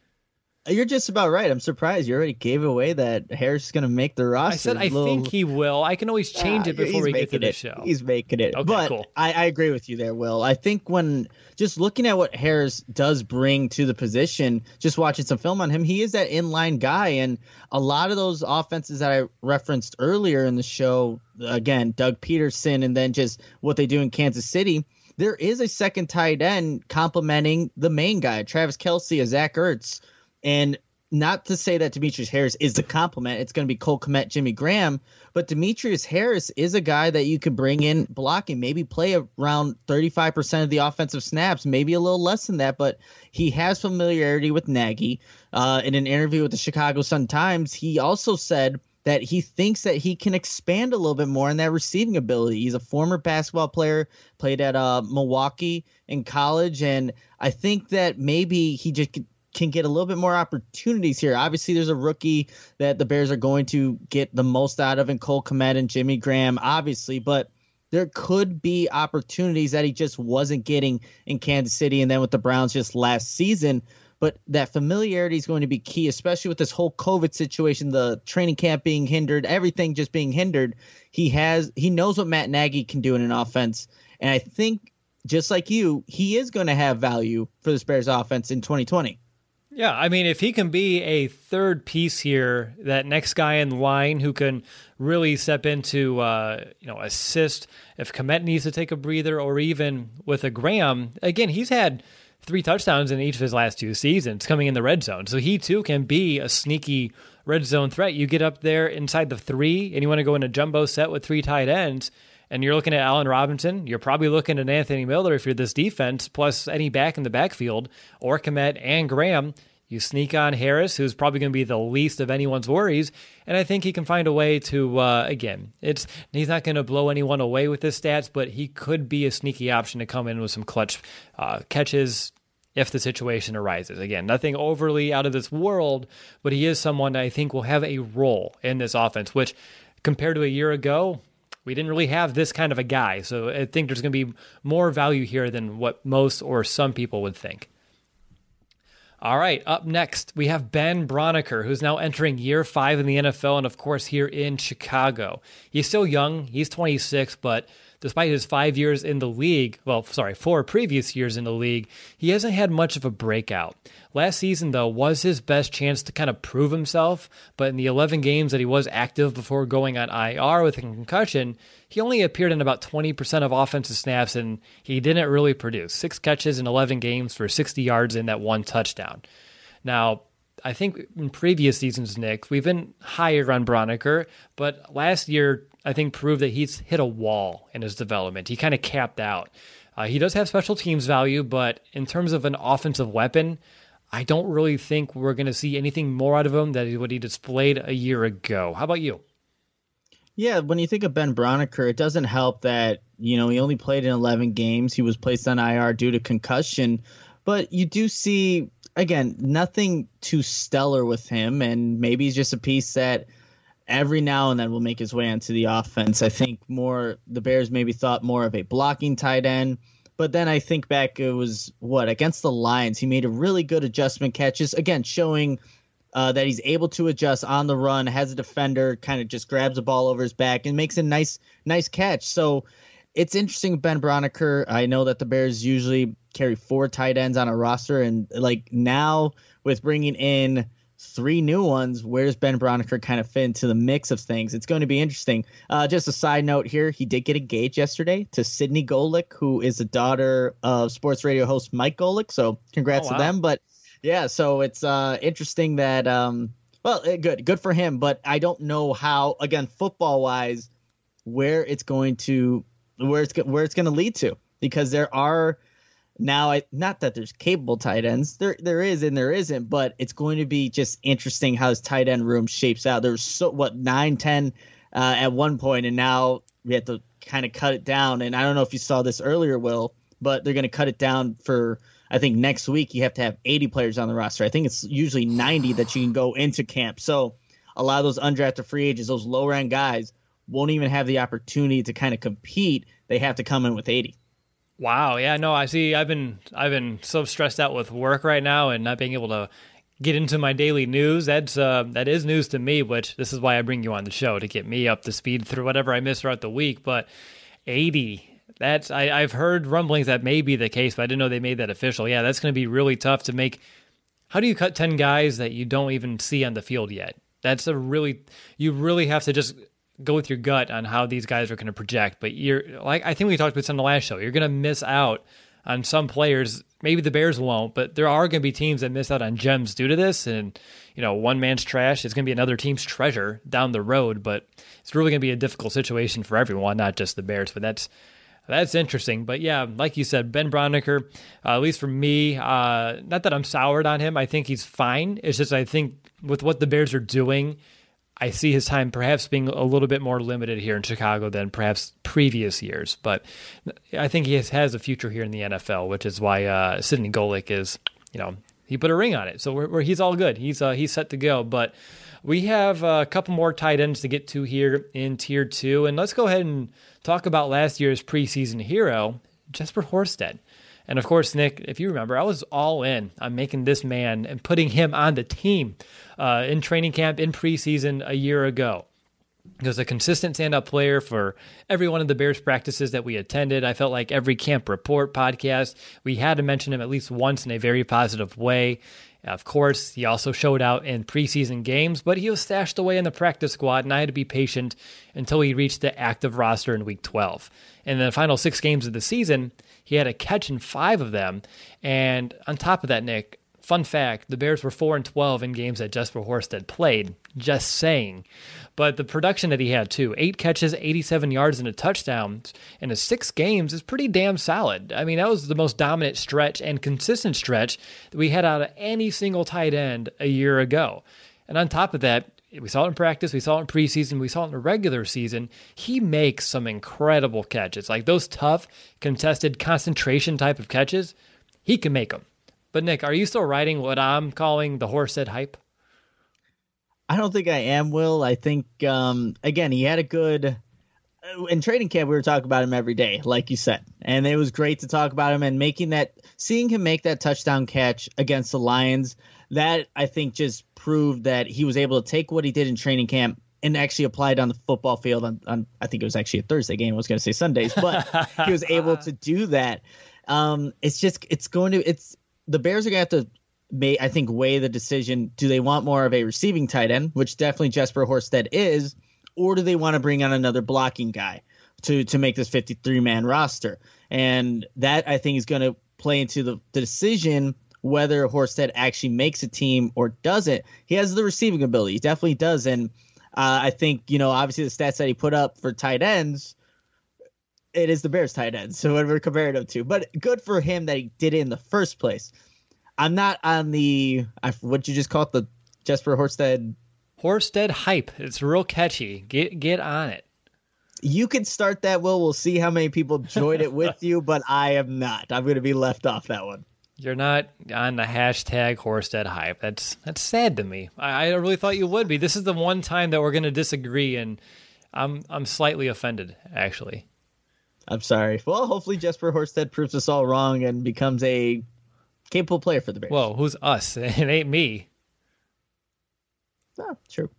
You're just about right. I'm surprised you already gave away that Harris is going to make the roster. I said I little... think he will. I can always change ah, it before we get to the it. show. He's making it. Okay, but cool. I, I agree with you there, Will. I think when just looking at what Harris does bring to the position, just watching some film on him, he is that inline guy. And a lot of those offenses that I referenced earlier in the show, again, Doug Peterson, and then just what they do in Kansas City, there is a second tight end complementing the main guy, Travis Kelce, a Zach Ertz. And not to say that Demetrius Harris is the complement. It's going to be Cole Kmet, Jimmy Graham. But Demetrius Harris is a guy that you could bring in blocking, maybe play around thirty-five percent of the offensive snaps, maybe a little less than that. But he has familiarity with Nagy. Uh, in an interview with the Chicago Sun-Times, he also said that he thinks that he can expand a little bit more in that receiving ability. He's a former basketball player, played at uh, Milwaukee in college. And I think that maybe he just – can get a little bit more opportunities here. Obviously, there's a rookie that the Bears are going to get the most out of in Cole Kmet and Jimmy Graham, obviously, but there could be opportunities that he just wasn't getting in Kansas City and then with the Browns just last season. But that familiarity is going to be key, especially with this whole COVID situation, the training camp being hindered, everything just being hindered. He has he knows what Matt Nagy can do in an offense, and I think just like you, he is going to have value for this Bears offense in twenty twenty. Yeah, I mean, if he can be a third piece here, that next guy in line who can really step into, uh, you know, assist if Kmet needs to take a breather, or even with a Graham, again, he's had three touchdowns in each of his last two seasons coming in the red zone. So he, too, can be a sneaky red zone threat. You get up there inside the three, and you want to go in a jumbo set with three tight ends, and you're looking at Allen Robinson, you're probably looking at Anthony Miller if you're this defense, plus any back in the backfield, or Kmet and Graham. You sneak on Harris, who's probably going to be the least of anyone's worries, and I think he can find a way to, uh, again, it's he's not going to blow anyone away with his stats, but he could be a sneaky option to come in with some clutch uh, catches if the situation arises. Again, nothing overly out of this world, but he is someone that I think will have a role in this offense, which compared to a year ago, we didn't really have this kind of a guy. So I think there's going to be more value here than what most or some people would think. All right, up next, we have Ben Braunecker, who's now entering year five in the N F L and, of course, here in Chicago. He's still young. He's twenty-six, but despite his five years in the league, well, sorry, four previous years in the league, he hasn't had much of a breakout. Last season, though, was his best chance to kind of prove himself, but in the eleven games that he was active before going on I R with a concussion, he only appeared in about twenty percent of offensive snaps, and he didn't really produce. Six catches in eleven games for sixty yards and that one touchdown. Now, I think in previous seasons, Nick, we've been higher on Braunecker, but last year, I think, proved that he's hit a wall in his development. He kind of capped out. Uh, he does have special teams value, but in terms of an offensive weapon, I don't really think we're going to see anything more out of him than what he displayed a year ago. How about you? Yeah, when you think of Ben Braunecker, it doesn't help that, you know, he only played in eleven games. He was placed on I R due to concussion. But you do see, again, nothing too stellar with him. And maybe he's just a piece that every now and then will make his way onto the offense. I think more the Bears maybe thought more of a blocking tight end. But then I think back, it was, what, against the Lions, he made a really good adjustment catches, again, showing uh, that he's able to adjust on the run, has a defender, kind of just grabs the ball over his back and makes a nice nice catch. So it's interesting with Ben Braunecker. I know that the Bears usually carry four tight ends on a roster, and like now with bringing in three new ones, where's Ben Braunecker kind of fit into the mix of things? It's going to be interesting. Uh, just a side note here, he did get engaged yesterday to Sydney Golick, who is the daughter of sports radio host Mike Golick. So congrats oh, wow. to them. But yeah, so it's uh, interesting that, um, well, good, good for him. But I don't know how, again, football wise, where it's going to, where it's, where it's going to lead to, because there are, Now, I, not that there's capable tight ends. There there is and there isn't, but it's going to be just interesting how his tight end room shapes out. There was, so, what, nine, ten uh, at one point, and now we have to kind of cut it down. And I don't know if you saw this earlier, Will, but they're going to cut it down for, I think, next week you have to have eighty players on the roster. I think it's usually ninety that you can go into camp. So a lot of those undrafted free agents, those lower-end guys, won't even have the opportunity to kind of compete. They have to come in with eighty. Wow. Yeah, no, I see. I've been I've been so stressed out with work right now and not being able to get into my daily news. That's uh, that is news to me, which this is why I bring you on the show, to get me up to speed through whatever I miss throughout the week. But eighty, that's I, I've heard rumblings that may be the case, but I didn't know they made that official. Yeah, that's going to be really tough to make. How do you cut ten guys that you don't even see on the field yet? That's a really you really have to just go with your gut on how these guys are going to project. But you're like, I think we talked about this on the last show. You're going to miss out on some players. Maybe the Bears won't, but there are going to be teams that miss out on gems due to this. And, you know, one man's trash is going to be another team's treasure down the road, but it's really going to be a difficult situation for everyone, not just the Bears. But that's, that's interesting. But yeah, like you said, Ben Braunecker, uh, at least for me, uh, not that I'm soured on him. I think he's fine. It's just, I think with what the Bears are doing, I see his time perhaps being a little bit more limited here in Chicago than perhaps previous years. But I think he has, has a future here in the N F L, which is why uh, Sydney Golick is, you know, he put a ring on it. So we're, we're, he's all good. He's uh, he's set to go. But we have a couple more tight ends to get to here in Tier two. And let's go ahead and talk about last year's preseason hero, Jesper Horsted. And of course, Nick, if you remember, I was all in on making this man and putting him on the team uh, in training camp, in preseason a year ago. He was a consistent stand-up player for every one of the Bears practices that we attended. I felt like every Camp Report podcast, we had to mention him at least once in a very positive way. Of course, he also showed out in preseason games, but he was stashed away in the practice squad, and I had to be patient until he reached the active roster in week twelve. In the final six games of the season, he had a catch in five of them. And on top of that, Nick, fun fact, the Bears were four and twelve in games that Jesper Horsted played Just saying. But the production that he had too, eight catches, eighty-seven yards, and a touchdown in his six games is pretty damn solid. I mean, that was the most dominant stretch and consistent stretch that we had out of any single tight end a year ago. And on top of that, we saw it in practice, we saw it in preseason, we saw it in the regular season. He makes some incredible catches. Like those tough, contested, concentration type of catches, he can make them. But Nick, are you still riding what I'm calling the Horsted hype? I don't think I am, Will. I think, um, again, he had a good... In training camp, we were talking about him every day, like you said. And it was great to talk about him and making that... Seeing him make that touchdown catch against the Lions, that, I think, just proved that he was able to take what he did in training camp and actually apply it on the football field. On, on I think it was actually a Thursday game. I was going to say Sundays, but he was able to do that. Um, it's just... It's going to... It's the Bears are going to have to... May I think weigh the decision. Do they want more of a receiving tight end, which definitely Jesper Horsted is, or do they want to bring on another blocking guy to to make this fifty-three man roster? And that I think is going to play into the, the decision whether Horsted actually makes a team or doesn't. He has the receiving ability, he definitely does, and uh, I think you know obviously the stats that he put up for tight ends, it is the Bears tight ends, so whatever compared him to. But good for him that he did it in the first place. I'm not on the, what you just call it, the Jesper Horsted. Horsted hype. It's real catchy. Get get on it. You can start that, Will. We'll see how many people joined it with you, but I am not. I'm going to be left off that one. You're not on the hashtag Horsted hype. That's that's sad to me. I, I really thought you would be. This is the one time that we're going to disagree, and I'm I'm slightly offended, actually. I'm sorry. Well, hopefully Jesper Horsted proves us all wrong and becomes a capable player for the Bears. Whoa, who's us? It ain't me. Oh, true.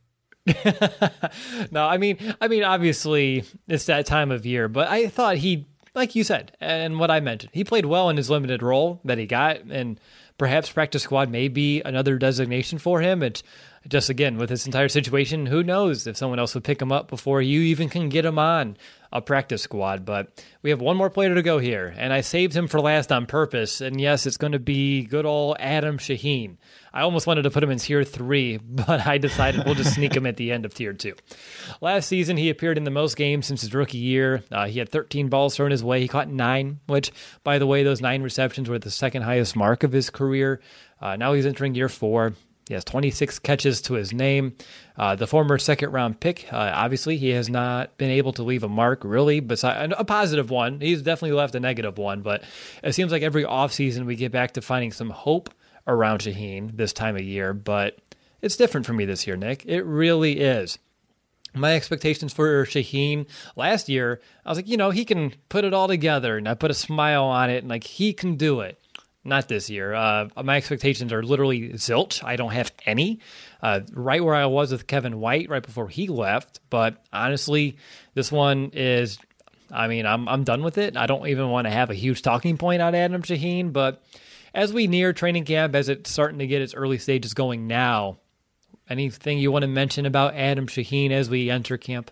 No, I mean, I mean, obviously it's that time of year, but I thought he, like you said, and what I mentioned, he played well in his limited role that he got, and perhaps practice squad may be another designation for him. It's just, again, with this entire situation, who knows if someone else would pick him up before you even can get him on a practice squad. But we have one more player to go here, and I saved him for last on purpose. And yes, it's going to be good old Adam Shaheen. I almost wanted to put him in tier three, but I decided we'll just sneak him at the end of tier two. Last season, he appeared in the most games since his rookie year. Uh, he had thirteen balls thrown his way. He caught nine, which, by the way, those nine receptions were the second highest mark of his career. Uh, now he's entering year four. He has twenty-six catches to his name. Uh, the former second-round pick, uh, obviously, he has not been able to leave a mark, really, besides a positive one. He's definitely left a negative one, but it seems like every offseason we get back to finding some hope around Shaheen this time of year, but it's different for me this year, Nick. It really is. My expectations for Shaheen last year, I was like, you know, he can put it all together, and I put a smile on it, and like, he can do it. Not this year. Uh, my expectations are literally zilch. I don't have any. Uh, right where I was with Kevin White right before he left. But honestly, this one is, I mean, I'm I'm done with it. I don't even want to have a huge talking point on Adam Shaheen. But as we near training camp, as it's starting to get its early stages going now, anything you want to mention about Adam Shaheen as we enter camp?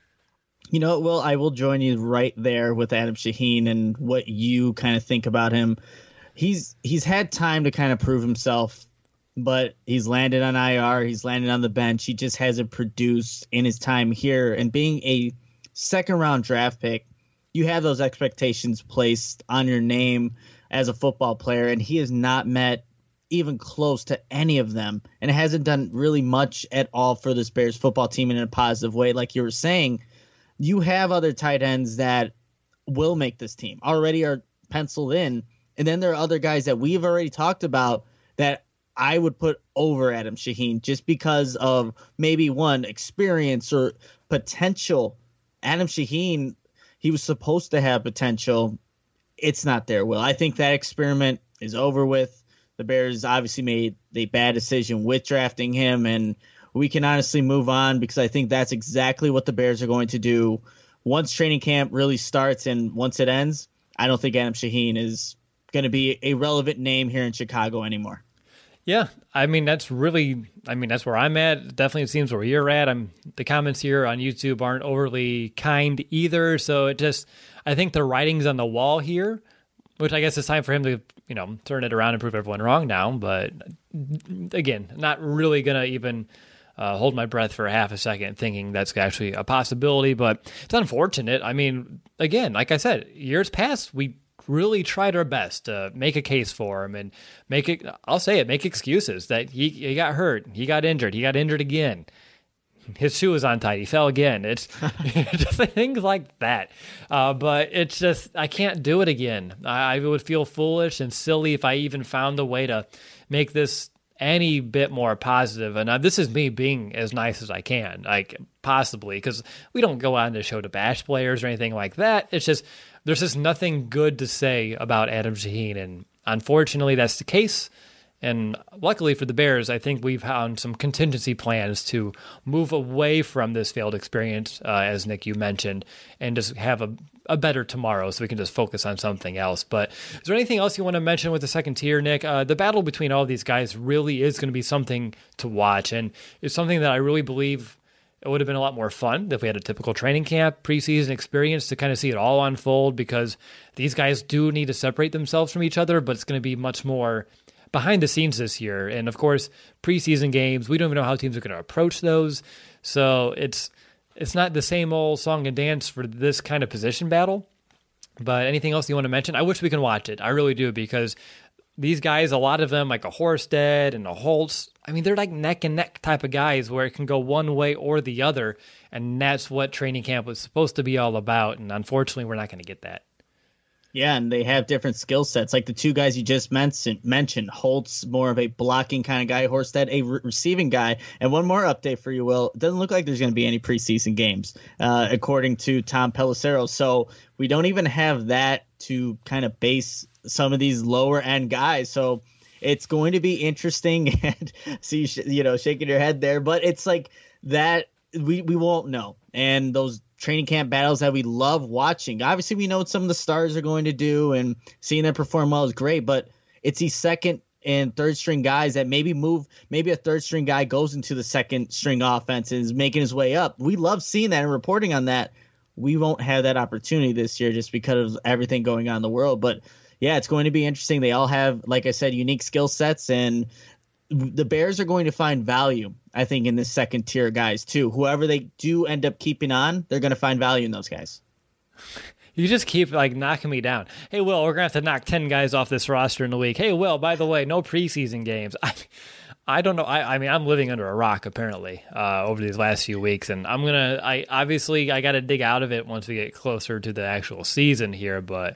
You know, Will, I will join you right there with Adam Shaheen and what you kind of think about him. He's he's had time to kind of prove himself, but he's landed on I R. He's landed on the bench. He just hasn't produced in his time here. And being a second-round draft pick, you have those expectations placed on your name as a football player, and he has not met even close to any of them and hasn't done really much at all for this Bears football team in a positive way. Like you were saying, you have other tight ends that will make this team, already are penciled in. And then there are other guys that we've already talked about that I would put over Adam Shaheen just because of maybe one experience or potential. Adam Shaheen, he was supposed to have potential. It's not there, Will. I think that experiment is over with. The Bears obviously made a bad decision with drafting him, and we can honestly move on because I think that's exactly what the Bears are going to do once training camp really starts and once it ends. I don't think Adam Shaheen is going to be a relevant name here in Chicago anymore. Yeah, I mean, that's really, I mean, that's where I'm at. Definitely it seems where you're at. I'm the comments here on YouTube aren't overly kind either. So it just, I think the writing's on the wall here, which I guess it's time for him to, you know, turn it around and prove everyone wrong now. But again, not really going to even uh, hold my breath for a half a second thinking that's actually a possibility, but it's unfortunate. I mean, again, like I said, years past, we really tried our best to make a case for him and make it, I'll say it, make excuses that he, he got hurt, he got injured, he got injured again. His shoe was untied. He fell again. It's just things like that. Uh, but it's just, I can't do it again. I, I would feel foolish and silly if I even found a way to make this any bit more positive. And uh, this is me being as nice as I can, like possibly, because we don't go on the show to bash players or anything like that. It's just, there's just nothing good to say about Adam Shaheen. And unfortunately, that's the case. And luckily for the Bears, I think we've found some contingency plans to move away from this failed experience, uh, as Nick, you mentioned, and just have a, a better tomorrow so we can just focus on something else. But is there anything else you want to mention with the second tier, Nick? Uh, the battle between all these guys really is going to be something to watch, and it's something that I really believe it would have been a lot more fun if we had a typical training camp, preseason experience to kind of see it all unfold, because these guys do need to separate themselves from each other, but it's going to be much more behind the scenes this year. And of course, preseason games, we don't even know how teams are going to approach those. So it's it's not the same old song and dance for this kind of position battle. But anything else you want to mention? I wish we can watch it. I really do, because these guys, a lot of them, like a Horsted and a Holtz, I mean, they're like neck and neck type of guys where it can go one way or the other. And that's what training camp was supposed to be all about. And unfortunately, we're not going to get that. Yeah, and they have different skill sets. Like the two guys you just mentioned, mentioned Holtz, more of a blocking kind of guy, Horsted, a re- receiving guy. And one more update for you, Will. It doesn't look like there's going to be any preseason games, uh, according to Tom Pelissero. So we don't even have that to kind of base some of these lower-end guys. So it's going to be interesting. And see, so you, you know, shaking your head there. But it's like that we, we won't know. And those training camp battles that we love watching. Obviously, we know what some of the stars are going to do, and seeing them perform well is great, but it's these second and third string guys that maybe move, maybe a third string guy goes into the second string offense and is making his way up. We love seeing that and reporting on that. We won't have that opportunity this year just because of everything going on in the world. But yeah, it's going to be interesting. They all have, like I said, unique skill sets, and the Bears are going to find value, I think, in this second tier guys too. Whoever they do end up keeping on, they're going to find value in those guys. You just keep like knocking me down. Hey, Will, we're going to have to knock ten guys off this roster in a week. Hey, Will, by the way, no preseason games. I, I don't know. I, I mean, I'm living under a rock apparently uh, over these last few weeks, and I'm gonna. I obviously I got to dig out of it once we get closer to the actual season here. But,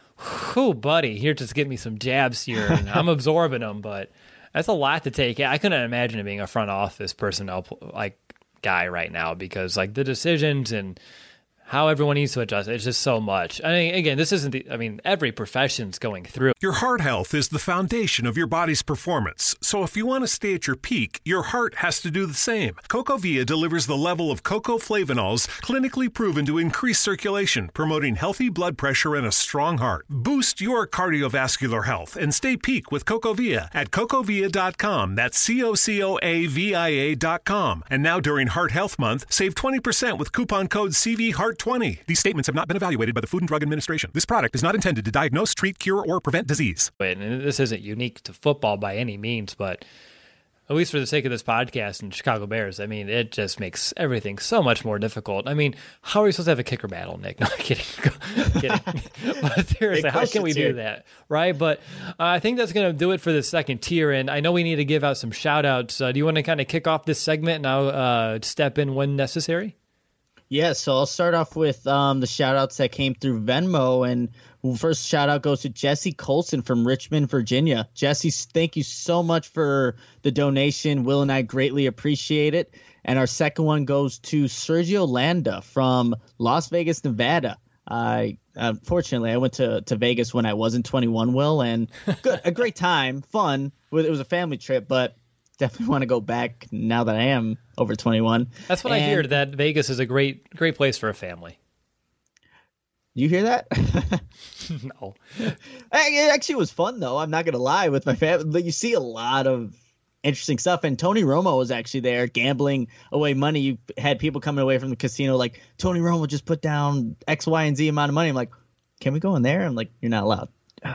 whew, buddy, here just get me some jabs here, and I'm absorbing them, but. That's a lot to take. I couldn't imagine it being a front office personnel like guy right now, because like the decisions and how everyone needs to adjust, it's just so much. I mean, again, this isn't the, I mean, every profession's going through. Your heart health is the foundation of your body's performance. So if you want to stay at your peak, your heart has to do the same. CocoVia delivers the level of cocoflavanols clinically proven to increase circulation, promoting healthy blood pressure and a strong heart. Boost your cardiovascular health and stay peak with CocoVia at cocovia dot com. That's C O C O A V I A dot com. And now during Heart Health Month, save twenty percent with coupon code C V Heart twenty. These statements have not been evaluated by the Food and Drug Administration. This product is not intended to diagnose, treat, cure, or prevent disease. And this isn't unique to football by any means, but at least for the sake of this podcast and Chicago Bears, I mean, it just makes everything so much more difficult. I mean, how are we supposed to have a kicker battle, Nick? No, I'm kidding. kidding. But seriously, how can we do that, right? But uh, I think that's going to do it for the second tier, and I know we need to give out some shout-outs. Uh, do you want to kind of kick off this segment and I'll uh, step in when necessary? Yeah, so I'll start off with um, the shout-outs that came through Venmo, and first shout-out goes to Jesse Colson from Richmond, Virginia. Jesse, thank you so much for the donation. Will and I greatly appreciate it. And our second one goes to Sergio Landa from Las Vegas, Nevada. I unfortunately, I went to, to Vegas when I wasn't twenty-one, Will, and good, a great time, fun. It was a family trip, but definitely want to go back now that I am over twenty-one. That's what and, I hear, that Vegas is a great great place for a family. You hear that? No. It actually was fun, though. I'm not going to lie with my family. But you see a lot of interesting stuff. And Tony Romo was actually there gambling away money. You had people coming away from the casino like, Tony Romo just put down X, Y, and Z amount of money. I'm like, can we go in there? I'm like, you're not allowed.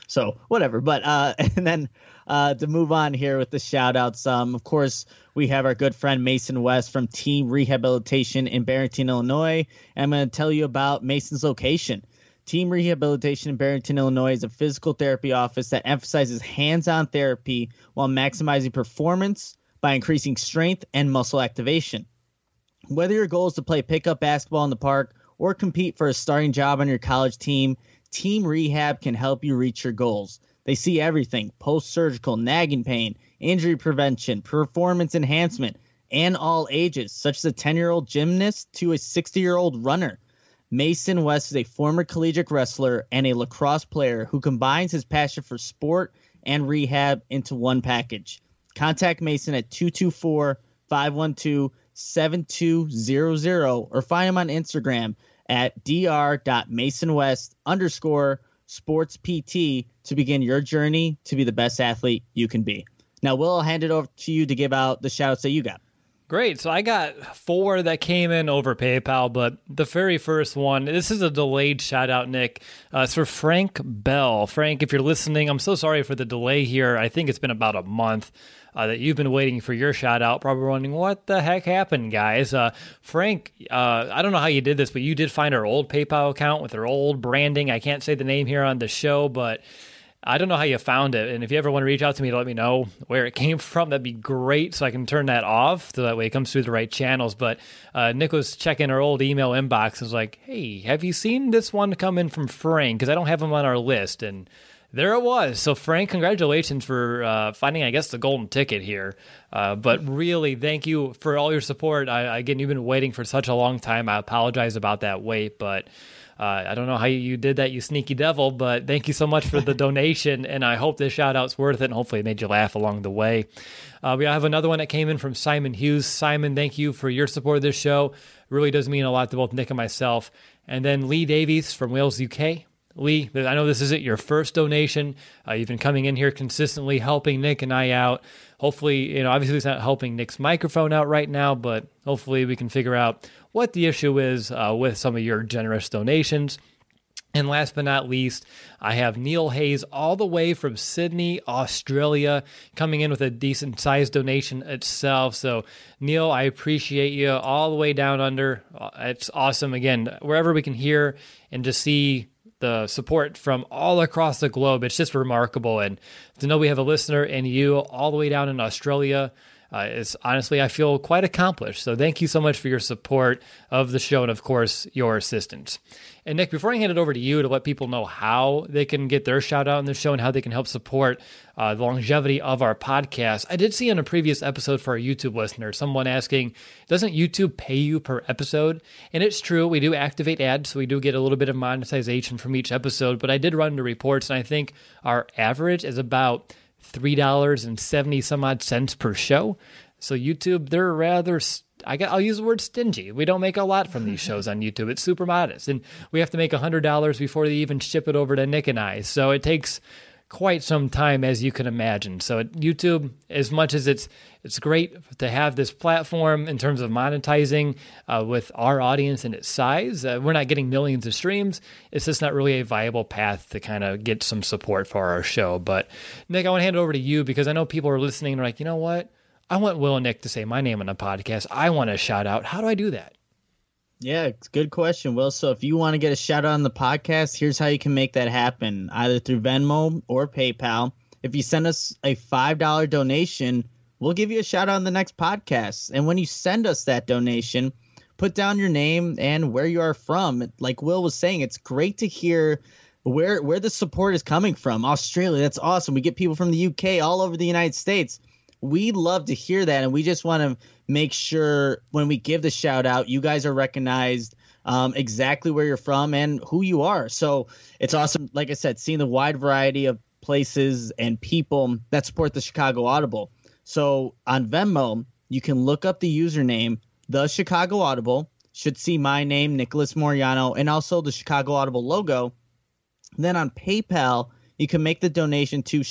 So whatever. But uh, and then uh, to move on here with the shout outs, um, of course, we have our good friend Mason West from Team Rehabilitation in Barrington, Illinois. And I'm going to tell you about Mason's location. Team Rehabilitation in Barrington, Illinois is a physical therapy office that emphasizes hands-on therapy while maximizing performance by increasing strength and muscle activation. Whether your goal is to play pickup basketball in the park or compete for a starting job on your college team, Team Rehab can help you reach your goals. They see everything: post-surgical, nagging pain, injury prevention, performance enhancement, and all ages, such as a ten-year-old gymnast to a sixty-year-old runner. Mason West is a former collegiate wrestler and a lacrosse player who combines his passion for sport and rehab into one package. Contact Mason at two two four, five one two, seven two zero zero or find him on Instagram at dr.masonwest underscore sports PT to begin your journey to be the best athlete you can be. Now, Will, I'll hand it over to you to give out the shout outs that you got. Great. So I got four that came in over PayPal, but the very first one, this is a delayed shout out, Nick. Uh, it's for Frank Bell. Frank, if you're listening, I'm so sorry for the delay here. I think it's been about a month uh, that you've been waiting for your shout out, probably wondering what the heck happened, guys. Uh, Frank, uh, I don't know how you did this, but you did find our old PayPal account with our old branding. I can't say the name here on the show, but I don't know how you found it, and if you ever want to reach out to me to let me know where it came from, that'd be great, so I can turn that off, so that way it comes through the right channels. But uh, Nick was checking our old email inbox and was like, hey, have you seen this one come in from Frank? Because I don't have him on our list, and there it was. So Frank, congratulations for uh, finding, I guess, the golden ticket here. Uh, but really, thank you for all your support. I, again, you've been waiting for such a long time. I apologize about that wait, but Uh, I don't know how you did that, you sneaky devil, but thank you so much for the donation, and I hope this shout-out's worth it, and hopefully it made you laugh along the way. Uh, we have another one that came in from Simon Hughes. Simon, thank you for your support of this show. It really does mean a lot to both Nick and myself. And then Lee Davies from Wales, U K. Lee, I know this isn't your first donation. Uh, you've been coming in here consistently, helping Nick and I out. Hopefully, you know, obviously it's not helping Nick's microphone out right now, but hopefully we can figure out what the issue is uh, with some of your generous donations. And last but not least, I have Neil Hayes all the way from Sydney, Australia, coming in with a decent sized donation itself. So Neil, I appreciate you all the way down under. It's awesome. Again, wherever we can hear and just see the support from all across the globe, it's just remarkable. And to know we have a listener in you all the way down in Australia, Uh, it's honestly, I feel quite accomplished. So thank you so much for your support of the show and, of course, your assistance. And Nick, before I hand it over to you to let people know how they can get their shout out in the show and how they can help support uh, the longevity of our podcast, I did see in a previous episode for our YouTube listeners, someone asking, doesn't YouTube pay you per episode? And it's true, we do activate ads, so we do get a little bit of monetization from each episode, but I did run the reports, and I think our average is about three dollars and seventy some odd cents per show. So YouTube, they're rather, I got, I'll use the word stingy. We don't make a lot from these shows on YouTube. It's super modest. And we have to make one hundred dollars before they even ship it over to Nick and I. So it takes quite some time, as you can imagine. So at YouTube, as much as it's it's great to have this platform in terms of monetizing uh, with our audience and its size, uh, we're not getting millions of streams. It's just not really a viable path to kind of get some support for our show. But Nick, I want to hand it over to you because I know people are listening and are like, you know what? I want Will and Nick to say my name on the podcast. I want a shout out. How do I do that? Yeah, it's a good question, Will. So if you want to get a shout out on the podcast, here's how you can make that happen, either through Venmo or PayPal. If you send us a five dollars donation, we'll give you a shout out on the next podcast. And when you send us that donation, put down your name and where you are from. Like Will was saying, it's great to hear where where the support is coming from. Australia, that's awesome. We get people from the U K, all over the United States. We love to hear that, and we just want to make sure when we give the shout out, you guys are recognized um, exactly where you're from and who you are. So it's awesome, like I said, seeing the wide variety of places and people that support the Chicago Audible. So on Venmo, you can look up the username, The Chicago Audible, should see my name, Nicholas Moriano, and also the Chicago Audible logo. And then on PayPal, you can make the donation to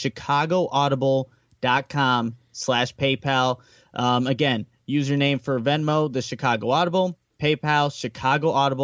chicagoaudible.com slash PayPal. Um, again, username for Venmo, the Chicago Audible, PayPal, chicagoaudible.com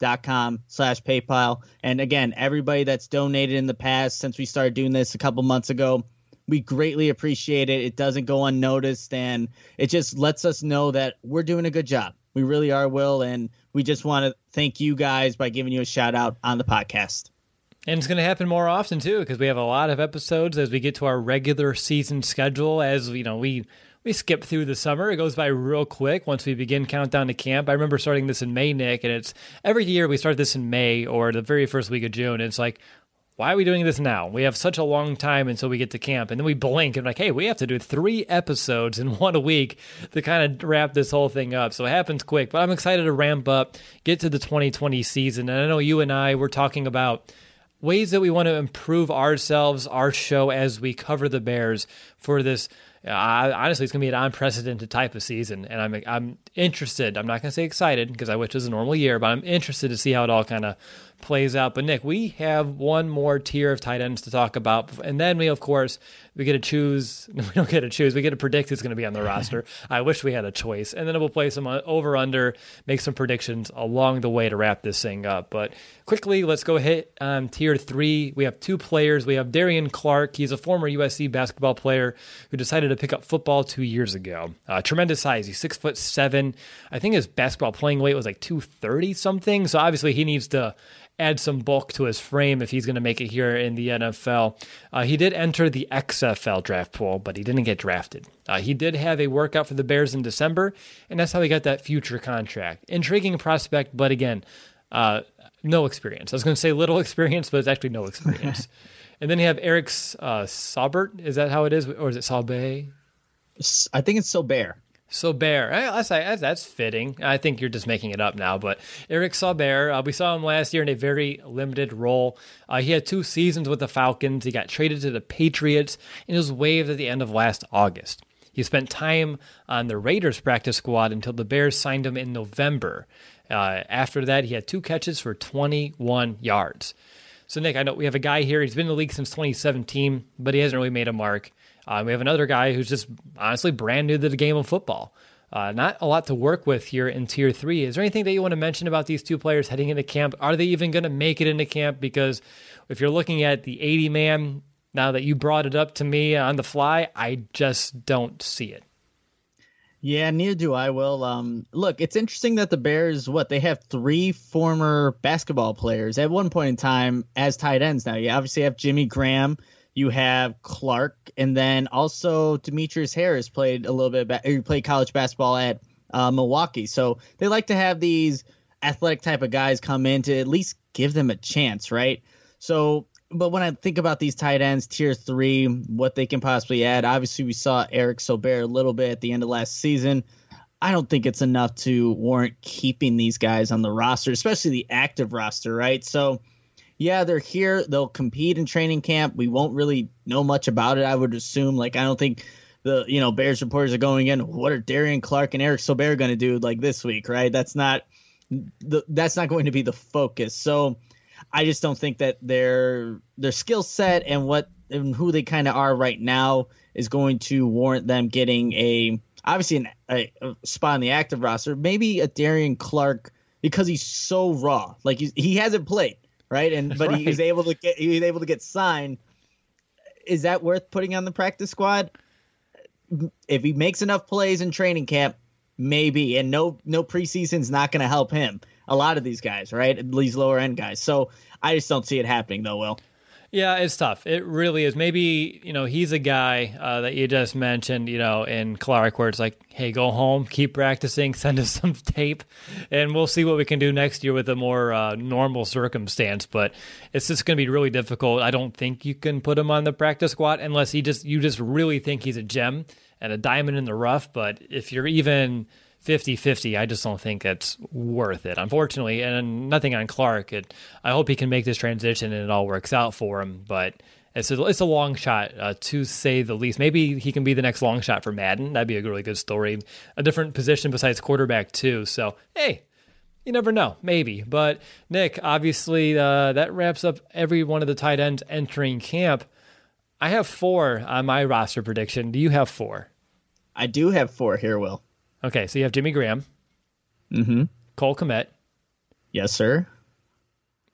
com slash PayPal. And again, everybody that's donated in the past since we started doing this a couple months ago, we greatly appreciate it. It doesn't go unnoticed, and it just lets us know that we're doing a good job. We really are, Will, and we just want to thank you guys by giving you a shout out on the podcast. And it's going to happen more often, too, because we have a lot of episodes as we get to our regular season schedule. As you know, we we skip through the summer. It goes by real quick once we begin countdown to camp. I remember starting this in May, Nick, and it's every year we start this in May or the very first week of June. And it's like, why are we doing this now? We have such a long time until we get to camp. And then we blink and like, hey, we have to do three episodes in one a week to kind of wrap this whole thing up. So it happens quick. But I'm excited to ramp up, get to the twenty twenty season. And I know you and I were talking about ways that we want to improve ourselves, our show, as we cover the Bears for this. Uh, honestly, it's going to be an unprecedented type of season, and I'm I'm interested. I'm not going to say excited because I wish it was a normal year, but I'm interested to see how it all kind of plays out. But Nick, we have one more tier of tight ends to talk about, and then we, of course, we get to choose. We don't get to choose. We get to predict who's going to be on the roster. I wish we had a choice, and then we'll play some over under, make some predictions along the way to wrap this thing up. But quickly, let's go hit um, tier three. We have two players. We have Darian Clark. He's a former U S C basketball player who decided to pick up football two years ago. Uh, tremendous size. He's six foot seven. I think his basketball playing weight was like two thirty something. So obviously he needs to add some bulk to his frame if he's going to make it here in the N F L. Uh, he did enter the X F L draft pool, but he didn't get drafted. Uh, he did have a workout for the Bears in December, and that's how he got that future contract. Intriguing prospect, but again, uh, no experience. I was going to say little experience, but it's actually no experience. And then you have Eric uh, Saubert. Is that how it is? Or is it Saubert? I think it's Saubert. Saubert. That's, that's fitting. I think you're just making it up now. But Eric Saubert, uh, we saw him last year in a very limited role. Uh, he had two seasons with the Falcons. He got traded to the Patriots and was waived at the end of last August. He spent time on the Raiders practice squad until the Bears signed him in November. Uh, after that, he had two catches for twenty-one yards. So, Nick, I know we have a guy here. He's been in the league since twenty seventeen, but he hasn't really made a mark. Uh, we have another guy who's just honestly brand new to the game of football. Uh, not a lot to work with here in Tier three. Is there anything that you want to mention about these two players heading into camp? Are they even going to make it into camp? Because if you're looking at the eighty man, now that you brought it up to me on the fly, I just don't see it. Yeah, neither do I, Will. Um, look, it's interesting that the Bears, what, they have three former basketball players at one point in time as tight ends now. You obviously have Jimmy Graham, you have Clark, and then also Demetrius Harris played a little bit, ba- he played college basketball at uh, Milwaukee. So they like to have these athletic type of guys come in to at least give them a chance, right? So, but when I think about these tight ends, tier three, what they can possibly add, obviously we saw Eric Saubert a little bit at the end of last season. I don't think it's enough to warrant keeping these guys on the roster, especially the active roster, right? So, yeah, they're here. They'll compete in training camp. We won't really know much about it, I would assume. Like, I don't think the, you know, Bears reporters are going in, what are Darian Clark and Eric Saubert going to do like this week, right? That's not the, that's not going to be the focus. So, I just don't think that their their skill set and what and who they kind of are right now is going to warrant them getting a obviously an, a, a spot on the active roster. Maybe a Darian Clark because he's so raw, like he's, he hasn't played, right? And but right. he was able to get he was able to get signed. Is that worth putting on the practice squad? If he makes enough plays in training camp, maybe. And no no preseason's not going to help him. A lot of these guys, right? These lower end guys. So I just don't see it happening, though, Will. Yeah, it's tough. It really is. Maybe, you know, he's a guy uh, that you just mentioned, you know, in Clark, where it's like, hey, go home, keep practicing, send us some tape, and we'll see what we can do next year with a more uh, normal circumstance. But it's just going to be really difficult. I don't think you can put him on the practice squad unless he just you just really think he's a gem and a diamond in the rough. But if you're even fifty-fifty, I just don't think it's worth it, unfortunately. And nothing on Clark. It, I hope he can make this transition and it all works out for him. But it's a, it's a long shot, uh, to say the least. Maybe he can be the next long shot for Madden. That'd be a really good story. A different position besides quarterback, too. So, hey, you never know. Maybe. But, Nick, obviously, uh, that wraps up every one of the tight ends entering camp. I have four on my roster prediction. Do you have four? I do have four here, Will. Okay, so you have Jimmy Graham, mm-hmm. Cole Kmet, yes, sir,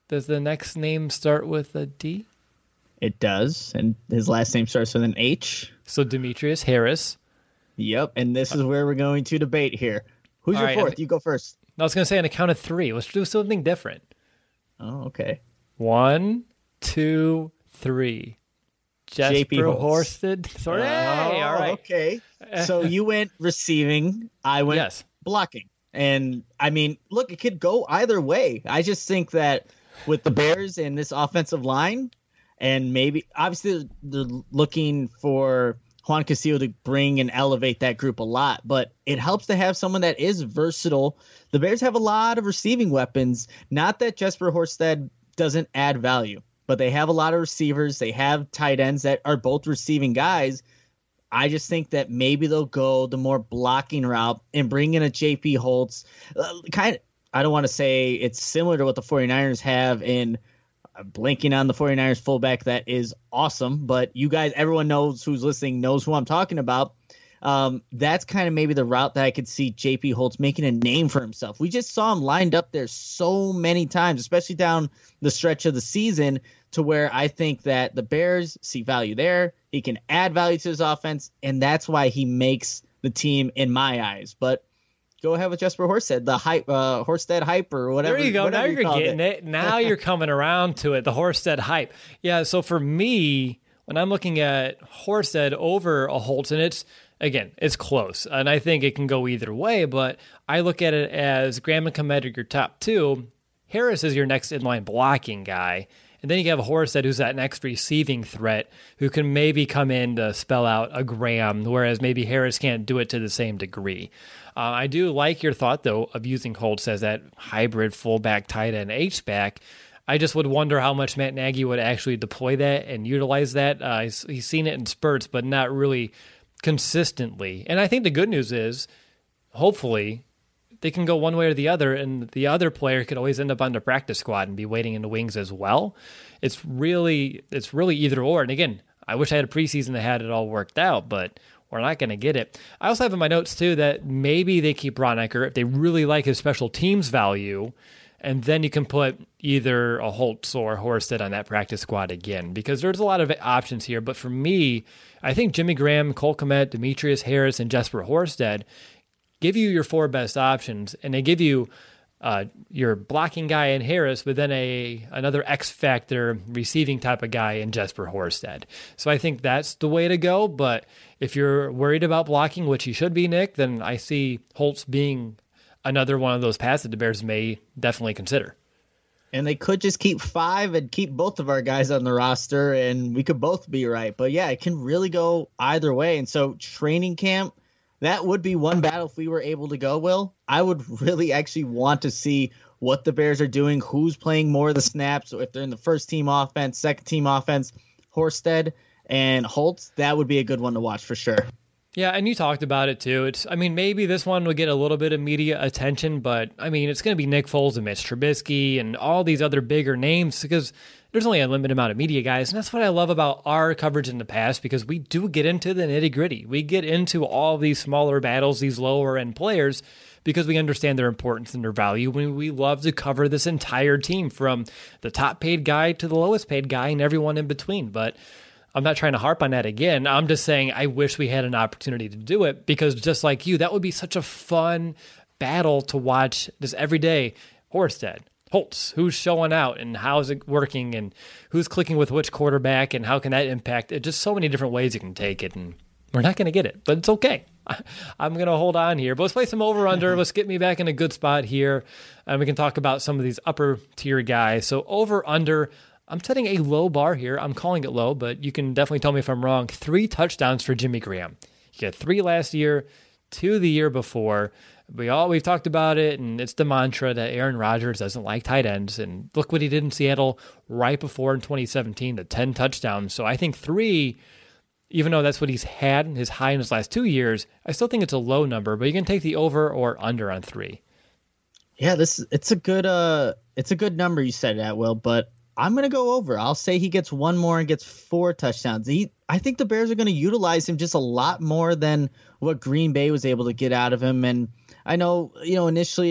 Does the next name start with a D? It does, and his last name starts with an H. So Demetrius Harris. Yep, and this is where we're going to debate here. Who's All your right, fourth? and- You go first. I was going to say on a count of three. Let's do something different. Oh, okay. One, two, three. Jesper J P Holtz. Horsted. Sorry. Oh, Hey, all right. Okay. So you went receiving. I went Yes. blocking. And I mean, look, it could go either way. I just think that with the Bears and this offensive line, and maybe obviously they're looking for Juan Castillo to bring and elevate that group a lot, but it helps to have someone that is versatile. The Bears have a lot of receiving weapons. Not that Jesper Horsted doesn't add value, but they have a lot of receivers. They have tight ends that are both receiving guys. I just think that maybe they'll go the more blocking route and bring in a J P Holtz. Uh, kind of, I don't want to say it's similar to what the 49ers have in uh, blinking on the 49ers fullback. That is awesome. But you guys, everyone knows who's listening, knows who I'm talking about. Um, that's kind of maybe the route that I could see J P Holtz making a name for himself. We just saw him lined up there so many times, especially down the stretch of the season, to where I think that the Bears see value there. He can add value to his offense, and that's why he makes the team in my eyes. But go ahead with Jesper Horsted, the hype, uh, Horsted hype or whatever. There you go. Now you you're called getting it. it. Now you're coming around to it. The Horsted hype. Yeah. So for me, when I'm looking at Horsted over a Holtz, and it's, again, it's close, and I think it can go either way, but I look at it as Graham and Kmet are your top two. Harris is your next inline blocking guy. And then you have a Horsted who's that next receiving threat who can maybe come in to spell out a Graham, whereas maybe Harris can't do it to the same degree. Uh, I do like your thought, though, of using Holtz as that hybrid fullback, tight end, H-back. I just would wonder how much Matt Nagy would actually deploy that and utilize that. Uh, he's, he's seen it in spurts, but not really consistently. And I think the good news is, hopefully, they can go one way or the other, and the other player could always end up on the practice squad and be waiting in the wings as well. It's really, it's really either or. And again, I wish I had a preseason that had it all worked out, but we're not going to get it. I also have in my notes too that maybe they keep Braunecker if they really like his special teams value, and then you can put either a Holtz or Horsted on that practice squad again, because there's a lot of options here. But for me, I think Jimmy Graham, Cole Kmet, Demetrius Harris, and Jesper Horsted give you your four best options, and they give you uh, your blocking guy in Harris, but then a another X factor receiving type of guy in Jesper Horsted. So I think that's the way to go. But if you're worried about blocking, which you should be, Nick, then I see Holtz being another one of those paths that the Bears may definitely consider. And they could just keep five and keep both of our guys on the roster, and we could both be right. But yeah, it can really go either way. And so training camp, that would be one battle if we were able to go, Will. I would really actually want to see what the Bears are doing, who's playing more of the snaps, or if they're in the first team offense, second team offense. Horsted and Holtz, that would be a good one to watch for sure. Yeah, and you talked about it too. It's, I mean, maybe this one will get a little bit of media attention, but I mean, it's going to be Nick Foles and Mitch Trubisky and all these other bigger names because there's only a limited amount of media guys. And that's what I love about our coverage in the past, because we do get into the nitty gritty. We get into all these smaller battles, these lower end players, because we understand their importance and their value. We, we love to cover this entire team from the top paid guy to the lowest paid guy and everyone in between. But I'm not trying to harp on that again. I'm just saying I wish we had an opportunity to do it, because just like you, that would be such a fun battle to watch this every day. Horsted, Holtz, who's showing out and how's it working and who's clicking with which quarterback and how can that impact it. Just so many different ways you can take it, and we're not going to get it, but it's okay. I'm going to hold on here. But let's play some over-under. Let's get me back in a good spot here, and we can talk about some of these upper-tier guys. So over-under, I'm setting a low bar here. I'm calling it low, but you can definitely tell me if I'm wrong. Three touchdowns for Jimmy Graham. He had three last year, two the year before. We all, we've talked about it, and it's the mantra that Aaron Rodgers doesn't like tight ends. And look what he did in Seattle right before in twenty seventeen, the ten touchdowns. So I think three, even though that's what he's had, his high in his last two years, I still think it's a low number, but you can take the over or under on three. Yeah, this it's a good uh it's a good number you said that, Will, but I'm going to go over. I'll say he gets one more and gets four touchdowns. He, I think the Bears are going to utilize him just a lot more than what Green Bay was able to get out of him. And I know, you know, initially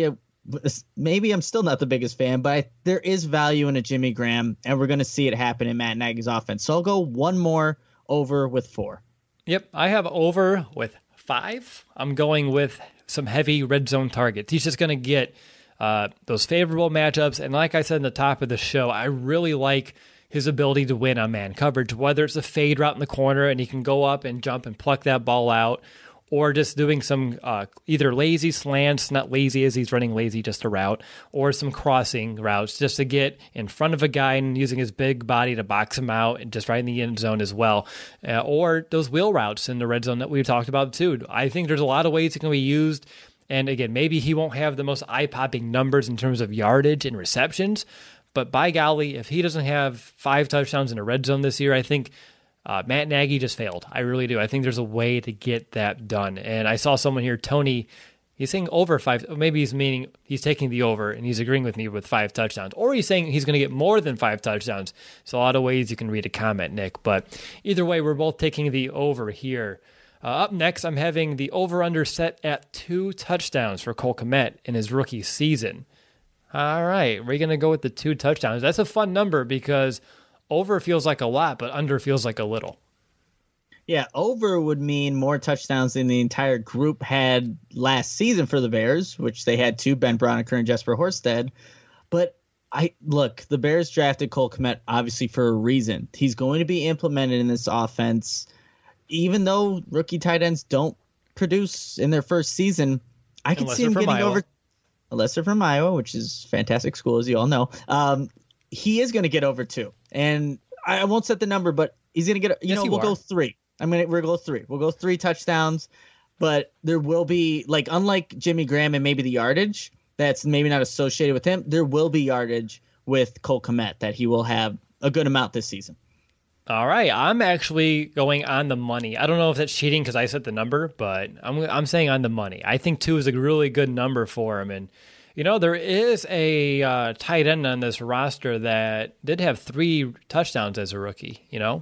maybe I'm still not the biggest fan, but I, there is value in a Jimmy Graham, and we're going to see it happen in Matt Nagy's offense. So I'll go one more over with four. Yep, I have over with five. I'm going with some heavy red zone targets. He's just going to get uh, those favorable matchups. And like I said in the top of the show, I really like his ability to win on man coverage, whether it's a fade route in the corner and he can go up and jump and pluck that ball out, or just doing some uh, either lazy slants, not lazy as he's running lazy, just a route, or some crossing routes just to get in front of a guy and using his big body to box him out and just right in the end zone as well. Uh, or those wheel routes in the red zone that we talked about too. I think there's a lot of ways it can be used. And again, maybe he won't have the most eye-popping numbers in terms of yardage and receptions, but by golly, if he doesn't have five touchdowns in a red zone this year, I think uh, Matt Nagy just failed. I really do. I think there's a way to get that done. And I saw someone here, Tony, he's saying over five. Maybe he's meaning he's taking the over and he's agreeing with me with five touchdowns. Or he's saying he's going to get more than five touchdowns. So a lot of ways you can read a comment, Nick. But either way, we're both taking the over here. Uh, up next, I'm having the over-under set at two touchdowns for Cole Kmet in his rookie season. All right, we're going to go with the two touchdowns. That's a fun number because over feels like a lot, but under feels like a little. Yeah, over would mean more touchdowns than the entire group had last season for the Bears, which they had two, Ben Braunecker and Jesper Horsted. But I look, the Bears drafted Cole Kmet obviously for a reason. He's going to be implemented in this offense. Even though rookie tight ends don't produce in their first season, I can Unless see him getting Iowa. over. Unless they're from Iowa, which is a fantastic school, as you all know. Um, he is going to get over two. And I won't set the number, but he's going to get, you Yes, know, you we'll are. go three. I'm going to, we'll go three. We'll go three touchdowns, but there will be, like, unlike Jimmy Graham and maybe the yardage that's maybe not associated with him, there will be yardage with Cole Kmet that he will have a good amount this season. All right, I'm actually going on the money. I don't know if that's cheating because I set the number, but I'm I'm saying on the money. I think two is a really good number for him. And, you know, there is a uh, tight end on this roster that did have three touchdowns as a rookie, you know?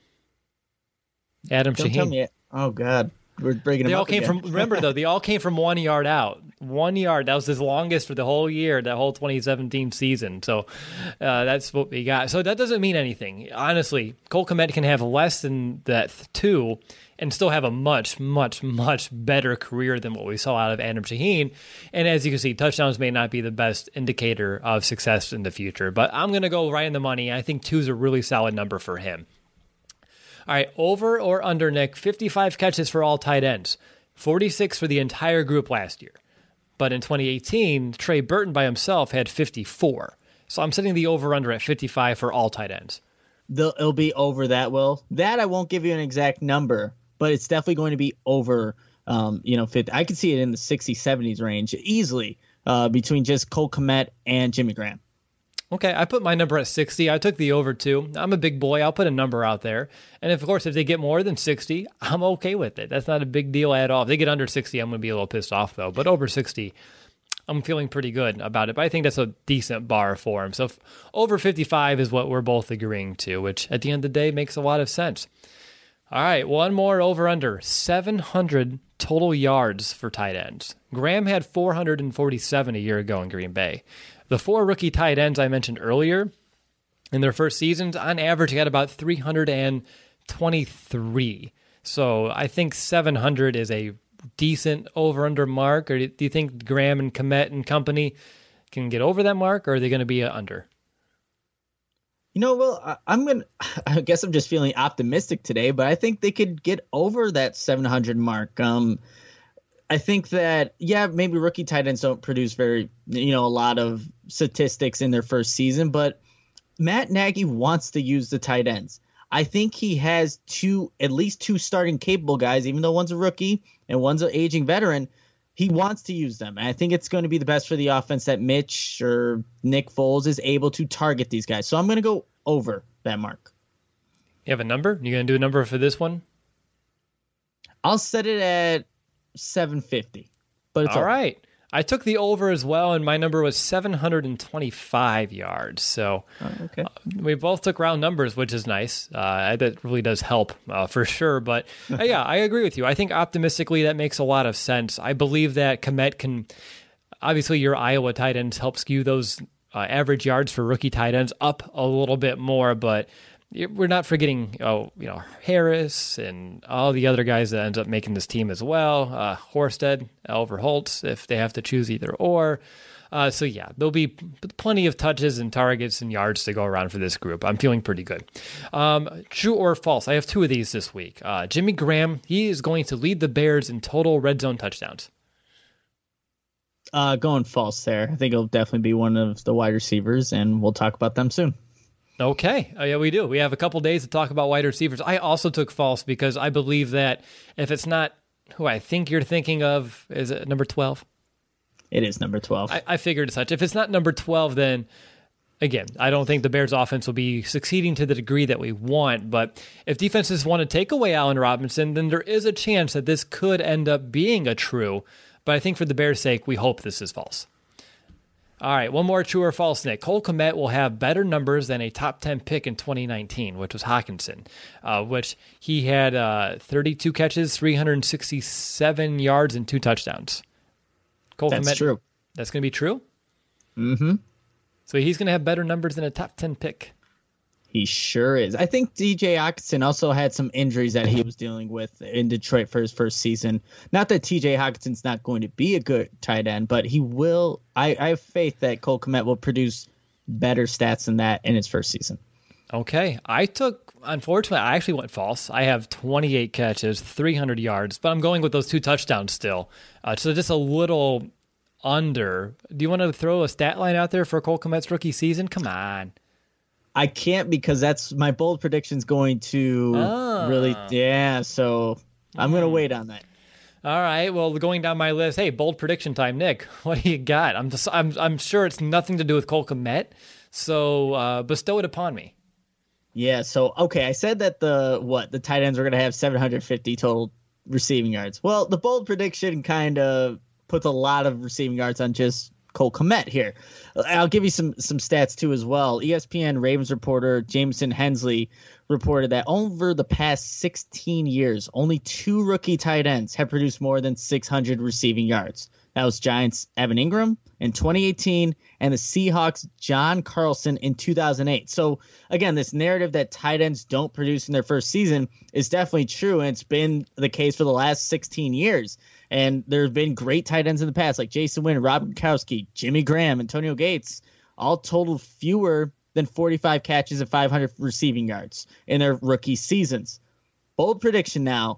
Adam Don't Shaheen. tell me it. Oh, God. We're breaking They him all up came again. from, remember though, they all came from one yard out. One yard. That was his longest for the whole year, that whole twenty seventeen season. So uh, that's what we got. So that doesn't mean anything. Honestly, Cole Kmet can have less than that two and still have a much, much, much better career than what we saw out of Adam Shaheen. And as you can see, touchdowns may not be the best indicator of success in the future. But I'm going to go right in the money. I think two is a really solid number for him. All right, over or under, Nick, fifty-five catches for all tight ends, forty-six for the entire group last year. But in twenty eighteen, Trey Burton by himself had fifty-four. So I'm setting the over-under at fifty-five for all tight ends. They'll, it'll be over that, Will. That I won't give you an exact number, but it's definitely going to be over, um, you know, fifty. I could see it in the sixties, seventies range easily uh, between just Cole Kmet and Jimmy Graham. Okay, I put my number at sixty. I took the over two. I'm a big boy. I'll put a number out there. And of course, if they get more than sixty, I'm okay with it. That's not a big deal at all. If they get under sixty, I'm going to be a little pissed off, though. But over sixty, I'm feeling pretty good about it. But I think that's a decent bar for him. So if over fifty-five is what we're both agreeing to, which at the end of the day makes a lot of sense. All right, one more over-under. seven hundred total yards for tight ends. Graham had four hundred forty-seven a year ago in Green Bay. The four rookie tight ends I mentioned earlier, in their first seasons, on average, got about three hundred twenty-three. So I think seven hundred is a decent over-under mark. Or do you think Graham and Kmet and company can get over that mark, or are they going to be a under? You know, well, I, I'm going to, I guess I'm just feeling optimistic today, but I think they could get over that seven hundred mark. Um, I think that, yeah, maybe rookie tight ends don't produce very, you know, a lot of statistics in their first season, but Matt Nagy wants to use the tight ends. I think he has two, at least two starting capable guys, even though one's a rookie and one's an aging veteran. He wants to use them. And I think it's going to be the best for the offense that Mitch or Nick Foles is able to target these guys. So I'm going to go over that mark. You have a number? You going to do a number for this one? I'll set it at seven fifty. But it's all over. right. I took the over as well, and my number was seven hundred twenty-five yards. So Oh, okay. uh, we both took round numbers, which is nice. Uh, that really does help uh, for sure. But uh, yeah, I agree with you. I think optimistically that makes a lot of sense. I believe that Kmet can obviously, your Iowa tight ends help skew those uh, average yards for rookie tight ends up a little bit more, but we're not forgetting, oh, you know, Harris and all the other guys that ends up making this team as well. Uh, Horsted, Oliver Holtz, if they have to choose either or. Uh, so yeah, there'll be plenty of touches and targets and yards to go around for this group. I'm feeling pretty good. Um, true or false? I have two of these this week. Uh, Jimmy Graham, he is going to lead the Bears in total red zone touchdowns. Uh, going false there. I think it'll definitely be one of the wide receivers, and we'll talk about them soon. Okay. Oh, yeah, we do. We have a couple days to talk about wide receivers. I also took false because I believe that if it's not who I think you're thinking of, is it number twelve? It is number twelve. I, I figured as such. If it's not number twelve, then, again, I don't think the Bears offense will be succeeding to the degree that we want. But if defenses want to take away Allen Robinson, then there is a chance that this could end up being a true. But I think for the Bears' sake, we hope this is false. All right, one more true or false, Nick. Cole Kmet will have better numbers than a top ten pick in twenty nineteen, which was Hockenson, uh, which he had uh, thirty-two catches, three hundred sixty-seven yards, and two touchdowns. Cole That's Kmet, true. That's going to be true? Mm-hmm. So he's going to have better numbers than a top ten pick. He sure is. I think D J Hockenson also had some injuries that he was dealing with in Detroit for his first season. Not that T J Hawkinson's not going to be a good tight end, but he will. I, I have faith that Cole Kmet will produce better stats than that in his first season. Okay. I took, unfortunately, I actually went false. I have twenty-eight catches, three hundred yards, but I'm going with those two touchdowns still. Uh, so just a little under. Do you want to throw a stat line out there for Cole Kmet's rookie season? Come on. I can't because that's my bold prediction's going to oh. really, yeah. So I'm going to wait on that. All right. Well, going down my list, hey, bold prediction time, Nick. What do you got? I'm just, I'm, I'm sure it's nothing to do with Cole Kmet, so uh, bestow it upon me. Yeah. So okay, I said that the what the tight ends were going to have seven hundred fifty total receiving yards. Well, the bold prediction kind of puts a lot of receiving yards on just Cole Kmet here. I'll give you some some stats too as well. E S P N Ravens reporter Jameson Hensley reported that over the past sixteen years, only two rookie tight ends have produced more than six hundred receiving yards. That was Giants' Evan Ingram in twenty eighteen and the Seahawks' John Carlson in two thousand eight. So again, this narrative that tight ends don't produce in their first season is definitely true, and it's been the case for the last sixteen years. And there have been great tight ends in the past, like Jason Wynn, Rob Gronkowski, Jimmy Graham, Antonio Gates, all totaled fewer than forty-five catches and five hundred receiving yards in their rookie seasons. Bold prediction now,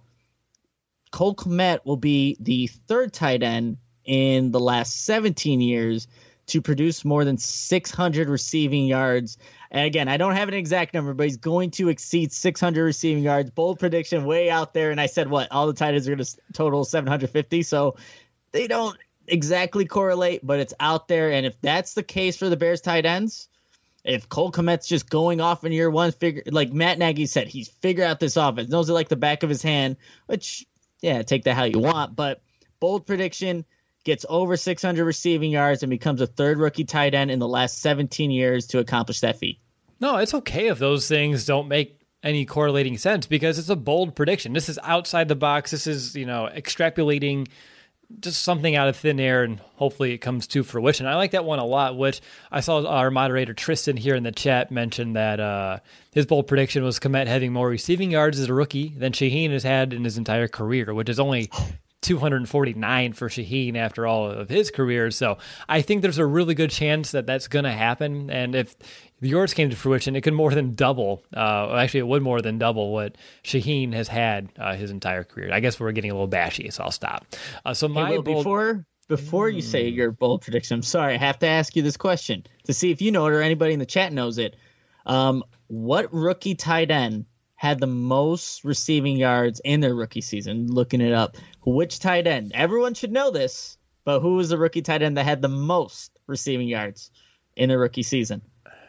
Cole Kmet will be the third tight end in the last seventeen years to produce more than six hundred receiving yards. And again, I don't have an exact number, but he's going to exceed six hundred receiving yards. Bold prediction way out there. And I said, what? All the tight ends are going to total seven hundred fifty. So they don't exactly correlate, but it's out there. And if that's the case for the Bears tight ends, if Cole Kmet's just going off in year one, figure like Matt Nagy said, he's figured out this offense, knows it like the back of his hand, which, yeah, take that how you want. But bold prediction, gets over six hundred receiving yards and becomes a third rookie tight end in the last seventeen years to accomplish that feat. No, it's okay if those things don't make any correlating sense because it's a bold prediction. This is outside the box. This is, you know, extrapolating just something out of thin air, and hopefully it comes to fruition. I like that one a lot, which I saw our moderator Tristan here in the chat mention that uh, his bold prediction was Kmet having more receiving yards as a rookie than Shaheen has had in his entire career, which is only two hundred forty-nine for Shaheen after all of his career. So I think there's a really good chance that that's going to happen. And if yours came to fruition, it could more than double. Uh, actually, it would more than double what Shaheen has had uh, his entire career. I guess we're getting a little bashy, so I'll stop. Uh, so my hey, Will, bold... before before you say your bold prediction, I'm sorry, I have to ask you this question to see if you know it or anybody in the chat knows it. Um, what rookie tight end had the most receiving yards in their rookie season? Looking it up. Which tight end? Everyone should know this, but who was the rookie tight end that had the most receiving yards in their rookie season?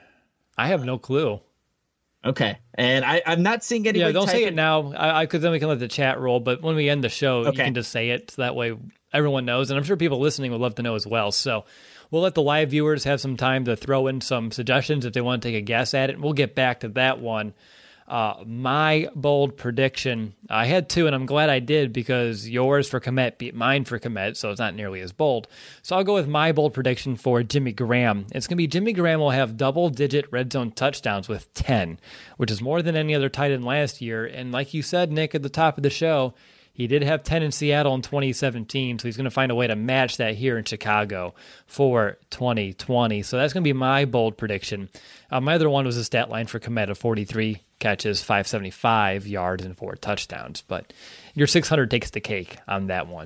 I have no clue. Okay. And I, I'm not seeing anybody. Yeah, don't say in... it now, because then we can let the chat roll. But when we end the show, okay, you can just say it. So that way everyone knows. And I'm sure people listening would love to know as well. So we'll let the live viewers have some time to throw in some suggestions if they want to take a guess at it. And we'll get back to that one. Uh, my bold prediction, I had two, and I'm glad I did because yours for Kmet beat mine for Kmet, so it's not nearly as bold. So I'll go with my bold prediction for Jimmy Graham. It's going to be Jimmy Graham will have double-digit red zone touchdowns with ten, which is more than any other tight end last year. And like you said, Nick, at the top of the show, he did have ten in Seattle in twenty seventeen, so he's going to find a way to match that here in Chicago for twenty twenty. So that's going to be my bold prediction. Uh, my other one was a stat line for Kmet of forty-three catches, five seventy-five yards, and four touchdowns. But your six hundred takes the cake on that one.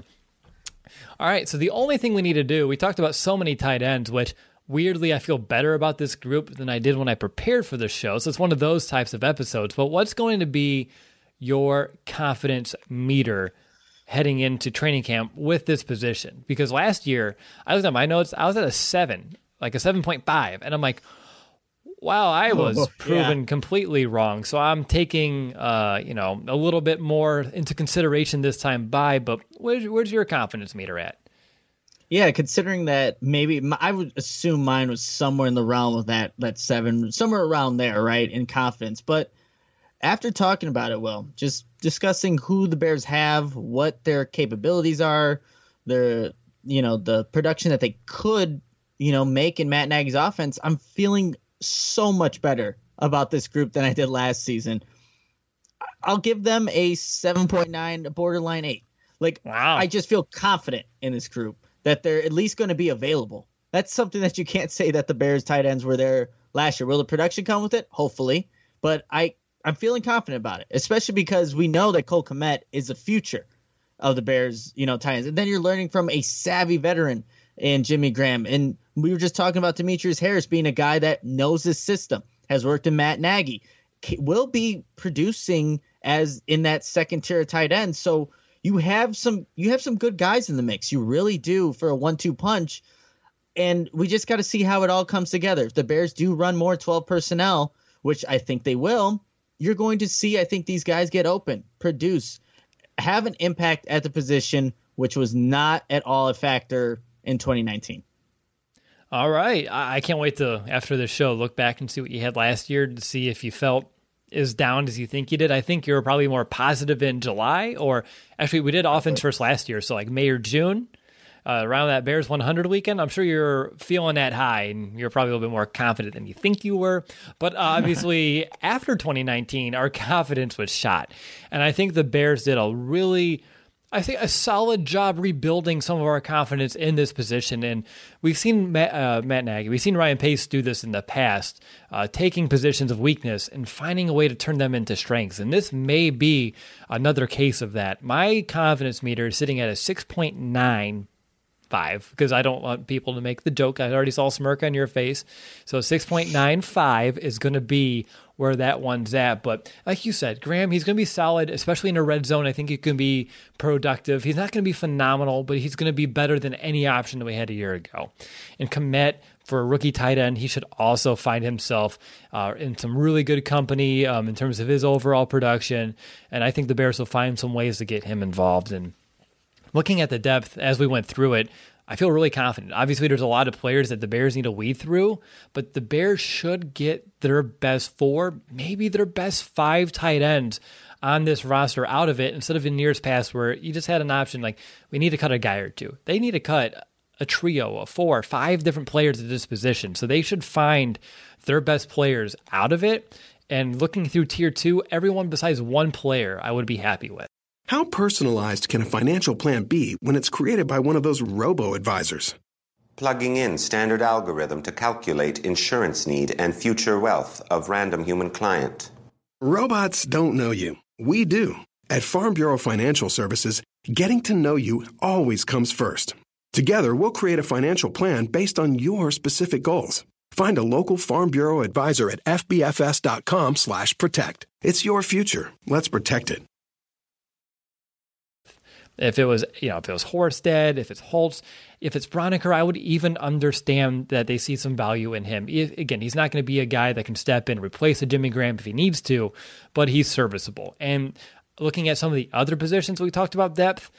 All right, so the only thing we need to do, we talked about so many tight ends, which weirdly I feel better about this group than I did when I prepared for the show. So it's one of those types of episodes. But what's going to be your confidence meter heading into training camp with this position? Because last year, I was at my notes, I was at a seven, like a seven point five. And I'm like, wow, I was oh, proven yeah. completely wrong. So I'm taking, uh, you know, a little bit more into consideration this time by, but where's, where's your confidence meter at? Yeah, considering that maybe I would assume mine was somewhere in the realm of that, that seven, somewhere around there, right, in confidence. But after talking about it, Will, just discussing who the Bears have, what their capabilities are, their, you know, the production that they could, you know, make in Matt Nagy's offense, I'm feeling so much better about this group than I did last season. I'll give them a seven point nine, borderline eight. Like, wow. I just feel confident in this group that they're at least going to be available. That's something that you can't say that the Bears tight ends were there last year. Will the production come with it? Hopefully. But I, I'm feeling confident about it, especially because we know that Cole Kmet is the future of the Bears, you know, tight ends. And then you're learning from a savvy veteran in Jimmy Graham. And we were just talking about Demetrius Harris being a guy that knows his system, has worked in Matt Nagy, will be producing as in that second tier of tight end. So you have some you have some good guys in the mix. You really do for a one two punch. And we just got to see how it all comes together. If the Bears do run more twelve personnel, which I think they will, you're going to see, I think, these guys get open, produce, have an impact at the position, which was not at all a factor in twenty nineteen. All right. I can't wait to, after this show, look back and see what you had last year to see if you felt as down as you think you did. I think you were probably more positive in July, or actually we did offense first last year, so like May or June. Uh, around that Bears one hundred weekend, I'm sure you're feeling that high, and you're probably a little bit more confident than you think you were. But uh, obviously, after twenty nineteen, our confidence was shot. And I think the Bears did a really, I think, a solid job rebuilding some of our confidence in this position. And we've seen Matt, uh, Matt Nagy, we've seen Ryan Pace do this in the past, uh, taking positions of weakness and finding a way to turn them into strengths. And this may be another case of that. My confidence meter is sitting at a six point nine. Five, because I don't want people to make the joke. I already saw a smirk on your face. So six point nine five is going to be where that one's at. But like you said, Graham, he's going to be solid, especially in a red zone. I think he can be productive. He's not going to be phenomenal, but he's going to be better than any option that we had a year ago. And Kmet, for a rookie tight end, he should also find himself uh, in some really good company um, in terms of his overall production. And I think the Bears will find some ways to get him involved. And looking at the depth as we went through it, I feel really confident. Obviously, there's a lot of players that the Bears need to weed through, but the Bears should get their best four, maybe their best five tight ends on this roster out of it, instead of in years past where you just had an option like, we need to cut a guy or two. They need to cut a trio of four, five different players at this position. So they should find their best players out of it. And looking through tier two, everyone besides one player I would be happy with. How personalized can a financial plan be when it's created by one of those robo-advisors? Plugging in standard algorithm to calculate insurance need and future wealth of random human client. Robots don't know you. We do. At Farm Bureau Financial Services, getting to know you always comes first. Together, we'll create a financial plan based on your specific goals. Find a local Farm Bureau advisor at fbfs.com slash protect. It's your future. Let's protect it. If it was, you know, if it was Horsted, if it's Holtz, if it's Broniker, I would even understand that they see some value in him. If, again, he's not going to be a guy that can step in and replace a Jimmy Graham if he needs to, but he's serviceable. And looking at some of the other positions we talked about depth,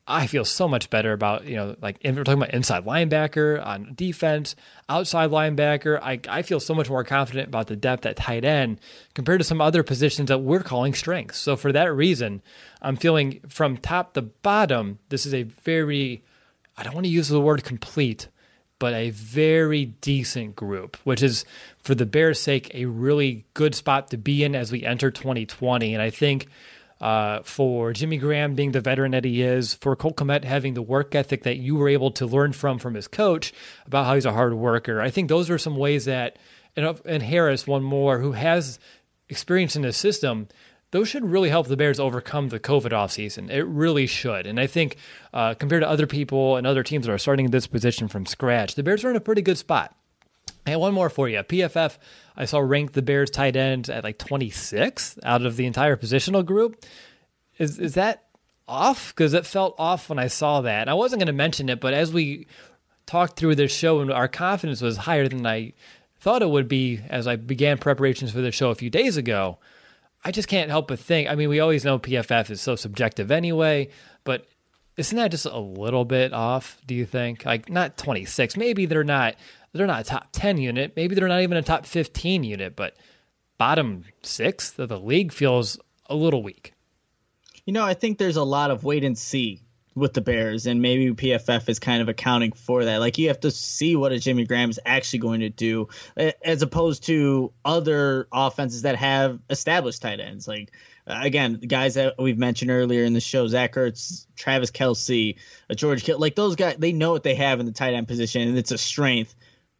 I feel so much better about, you know, like if we're talking about inside linebacker on defense, outside linebacker, I, I feel so much more confident about the depth at tight end compared to some other positions that we're calling strengths. So for that reason, I'm feeling from top to bottom, this is a very, I don't want to use the word complete, but a very decent group, which is, for the Bears' sake, a really good spot to be in as we enter twenty twenty. And I think uh, for Jimmy Graham being the veteran that he is, for Cole Kmet having the work ethic that you were able to learn from from his coach about how he's a hard worker, I think those are some ways that, and, and Harris, one more, who has experience in the system, those should really help the Bears overcome the COVID offseason. It really should. And I think uh, compared to other people and other teams that are starting this position from scratch, the Bears are in a pretty good spot. And one more for you. P F F, I saw ranked the Bears tight end at like twenty-sixth out of the entire positional group. Is is that off? Because it felt off when I saw that. And I wasn't going to mention it, but as we talked through this show, and our confidence was higher than I thought it would be as I began preparations for the show a few days ago, I just can't help but think, I mean, we always know P F F is so subjective anyway, but isn't that just a little bit off, do you think? Like, not twenty-six. Maybe they're not they're not a top ten unit. Maybe they're not even a top fifteen unit, but bottom sixth of the league feels a little weak. You know, I think there's a lot of wait and see with the Bears, and maybe P F F is kind of accounting for that. Like, you have to see what a Jimmy Graham is actually going to do, as opposed to other offenses that have established tight ends. Like, again, the guys that we've mentioned earlier in the show, Zach Ertz, Travis Kelce, George Kittle, like those guys, they know what they have in the tight end position, and it's a strength.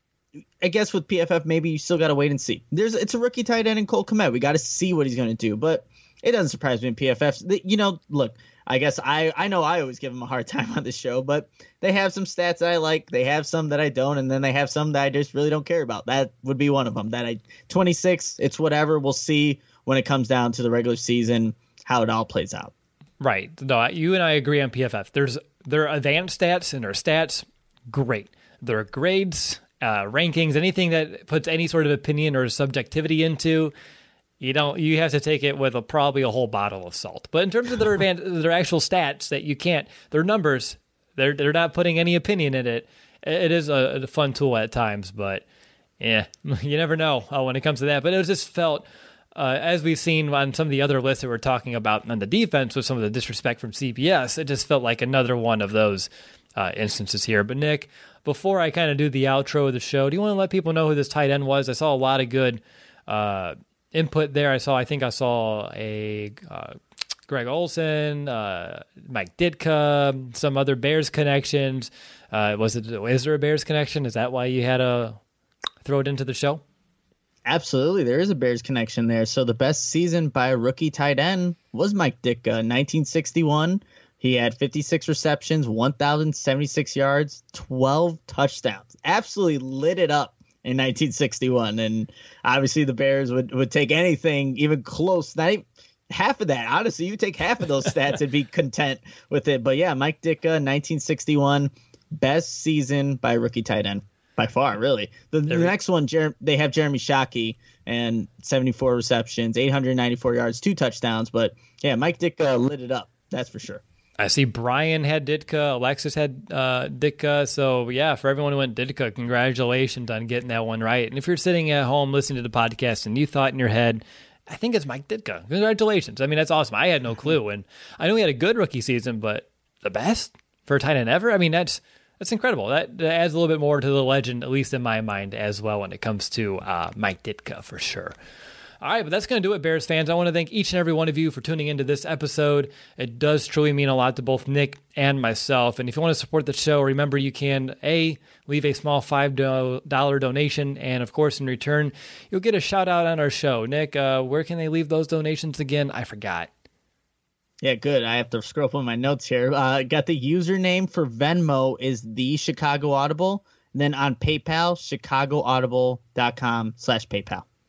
I guess with P F F, maybe you still got to wait and see. There's It's a rookie tight end in Cole Kmet. We got to see what he's going to do, but it doesn't surprise me in P F F. You know, look, I guess I, I know I always give them a hard time on this show, but they have some stats that I like. They have some that I don't, and then they have some that I just really don't care about. That would be one of them. That I twenty-six, it's whatever. We'll see when it comes down to the regular season how it all plays out. Right. No, you and I agree on P F F. There's their advanced stats and their stats, great. Their grades, uh, rankings, anything that puts any sort of opinion or subjectivity into, You don't. You have to take it with a, probably a whole bottle of salt. But in terms of their advan- their actual stats, that you can't, their numbers, they're they're not putting any opinion in it. It is a, a fun tool at times, but yeah, you never know uh, when it comes to that. But it was just felt, uh, as we've seen on some of the other lists that we're talking about on the defense with some of the disrespect from C B S, it just felt like another one of those uh, instances here. But Nick, before I kind of do the outro of the show, do you want to let people know who this tight end was? I saw a lot of good Uh, input there. I saw, I think I saw a uh, Greg Olsen, uh, Mike Ditka, some other Bears connections. Uh, was it, is there a Bears connection? Is that why you had to throw it into the show? Absolutely. There is a Bears connection there. So the best season by a rookie tight end was Mike Ditka, nineteen sixty-one. He had fifty-six receptions, one thousand seventy-six yards, twelve touchdowns. Absolutely lit it up in nineteen sixty-one, and obviously the Bears would, would take anything even close, not even half of that. Honestly, you take half of those stats and be content with it. But yeah, Mike Ditka, nineteen sixty-one, best season by a rookie tight end by far, really. The, the next one, Jer- they have Jeremy Shockey, and seventy-four receptions, eight hundred ninety-four yards, two touchdowns. But yeah, Mike Ditka lit it up, that's for sure. I see Brian had Ditka, Alexis had uh, Ditka. So, yeah, for everyone who went Ditka, congratulations on getting that one right. And if you're sitting at home listening to the podcast and you thought in your head, I think it's Mike Ditka, congratulations. I mean, that's awesome. I had no clue. And I know he had a good rookie season, but the best for a tight end ever? I mean, that's that's incredible. That, that adds a little bit more to the legend, at least in my mind as well, when it comes to uh, Mike Ditka for sure. All right, but that's going to do it, Bears fans. I want to thank each and every one of you for tuning into this episode. It does truly mean a lot to both Nick and myself. And if you want to support the show, remember you can, A, leave a small five dollars donation. And, of course, in return, you'll get a shout-out on our show. Nick, uh, where can they leave those donations again? I forgot. Yeah, good. I have to scroll up on my notes here. Uh, got the username for Venmo is the Chicago Audible. And then on PayPal, chicagoaudible.com slash PayPal.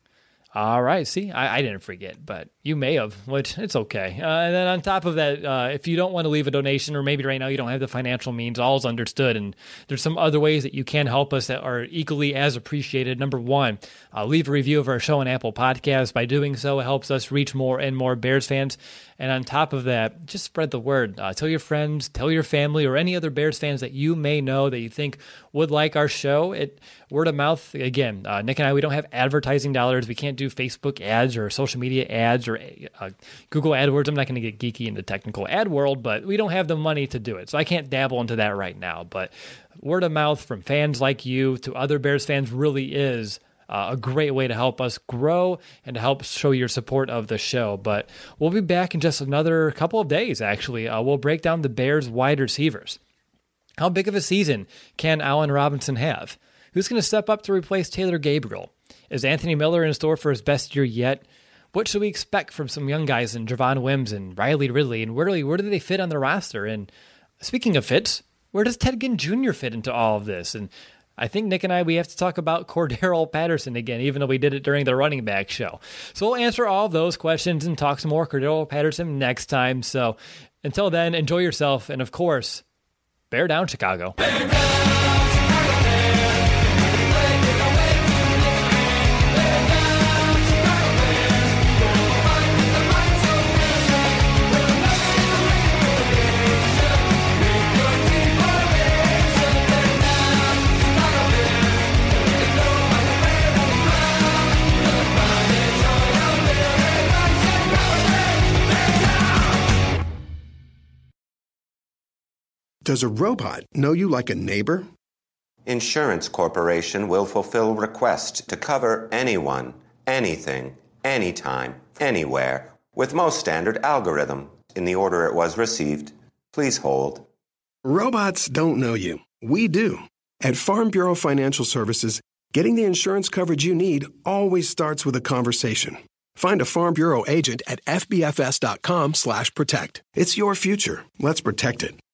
All right. See, I, I didn't forget, but you may have, which it's okay. Uh, and then on top of that, uh, if you don't want to leave a donation, or maybe right now you don't have the financial means, all is understood. And there's some other ways that you can help us that are equally as appreciated. Number one, uh, leave a review of our show on Apple Podcasts. By doing so, it helps us reach more and more Bears fans. And on top of that, just spread the word. Uh, tell your friends, tell your family, or any other Bears fans that you may know that you think would like our show. It word of mouth, again, uh, Nick and I, we don't have advertising dollars. We can't do Facebook ads or social media ads or uh, Google AdWords. I'm not going to get geeky in the technical ad world, but we don't have the money to do it. So I can't dabble into that right now. But word of mouth from fans like you to other Bears fans really is Uh, a great way to help us grow and to help show your support of the show. But we'll be back in just another couple of days, actually. Uh, we'll break down the Bears wide receivers. How big of a season can Allen Robinson have? Who's going to step up to replace Taylor Gabriel? Is Anthony Miller in store for his best year yet? What should we expect from some young guys in Javon Wims and Riley Ridley? And where, where do they fit on the roster? And speaking of fits, where does Ted Ginn Junior fit into all of this? And I think Nick and I, we have to talk about Cordarrelle Patterson again, even though we did it during the running back show. So we'll answer all of those questions and talk some more Cordarrelle Patterson next time. So until then, enjoy yourself. And of course, bear down, Chicago. Bear down, Chicago Bears. Does a robot know you like a neighbor? Insurance Corporation will fulfill request to cover anyone, anything, anytime, anywhere, with most standard algorithm in the order it was received. Please hold. Robots don't know you. We do. At Farm Bureau Financial Services, getting the insurance coverage you need always starts with a conversation. Find a Farm Bureau agent at F B F S dot com slash protect. It's your future. Let's protect it.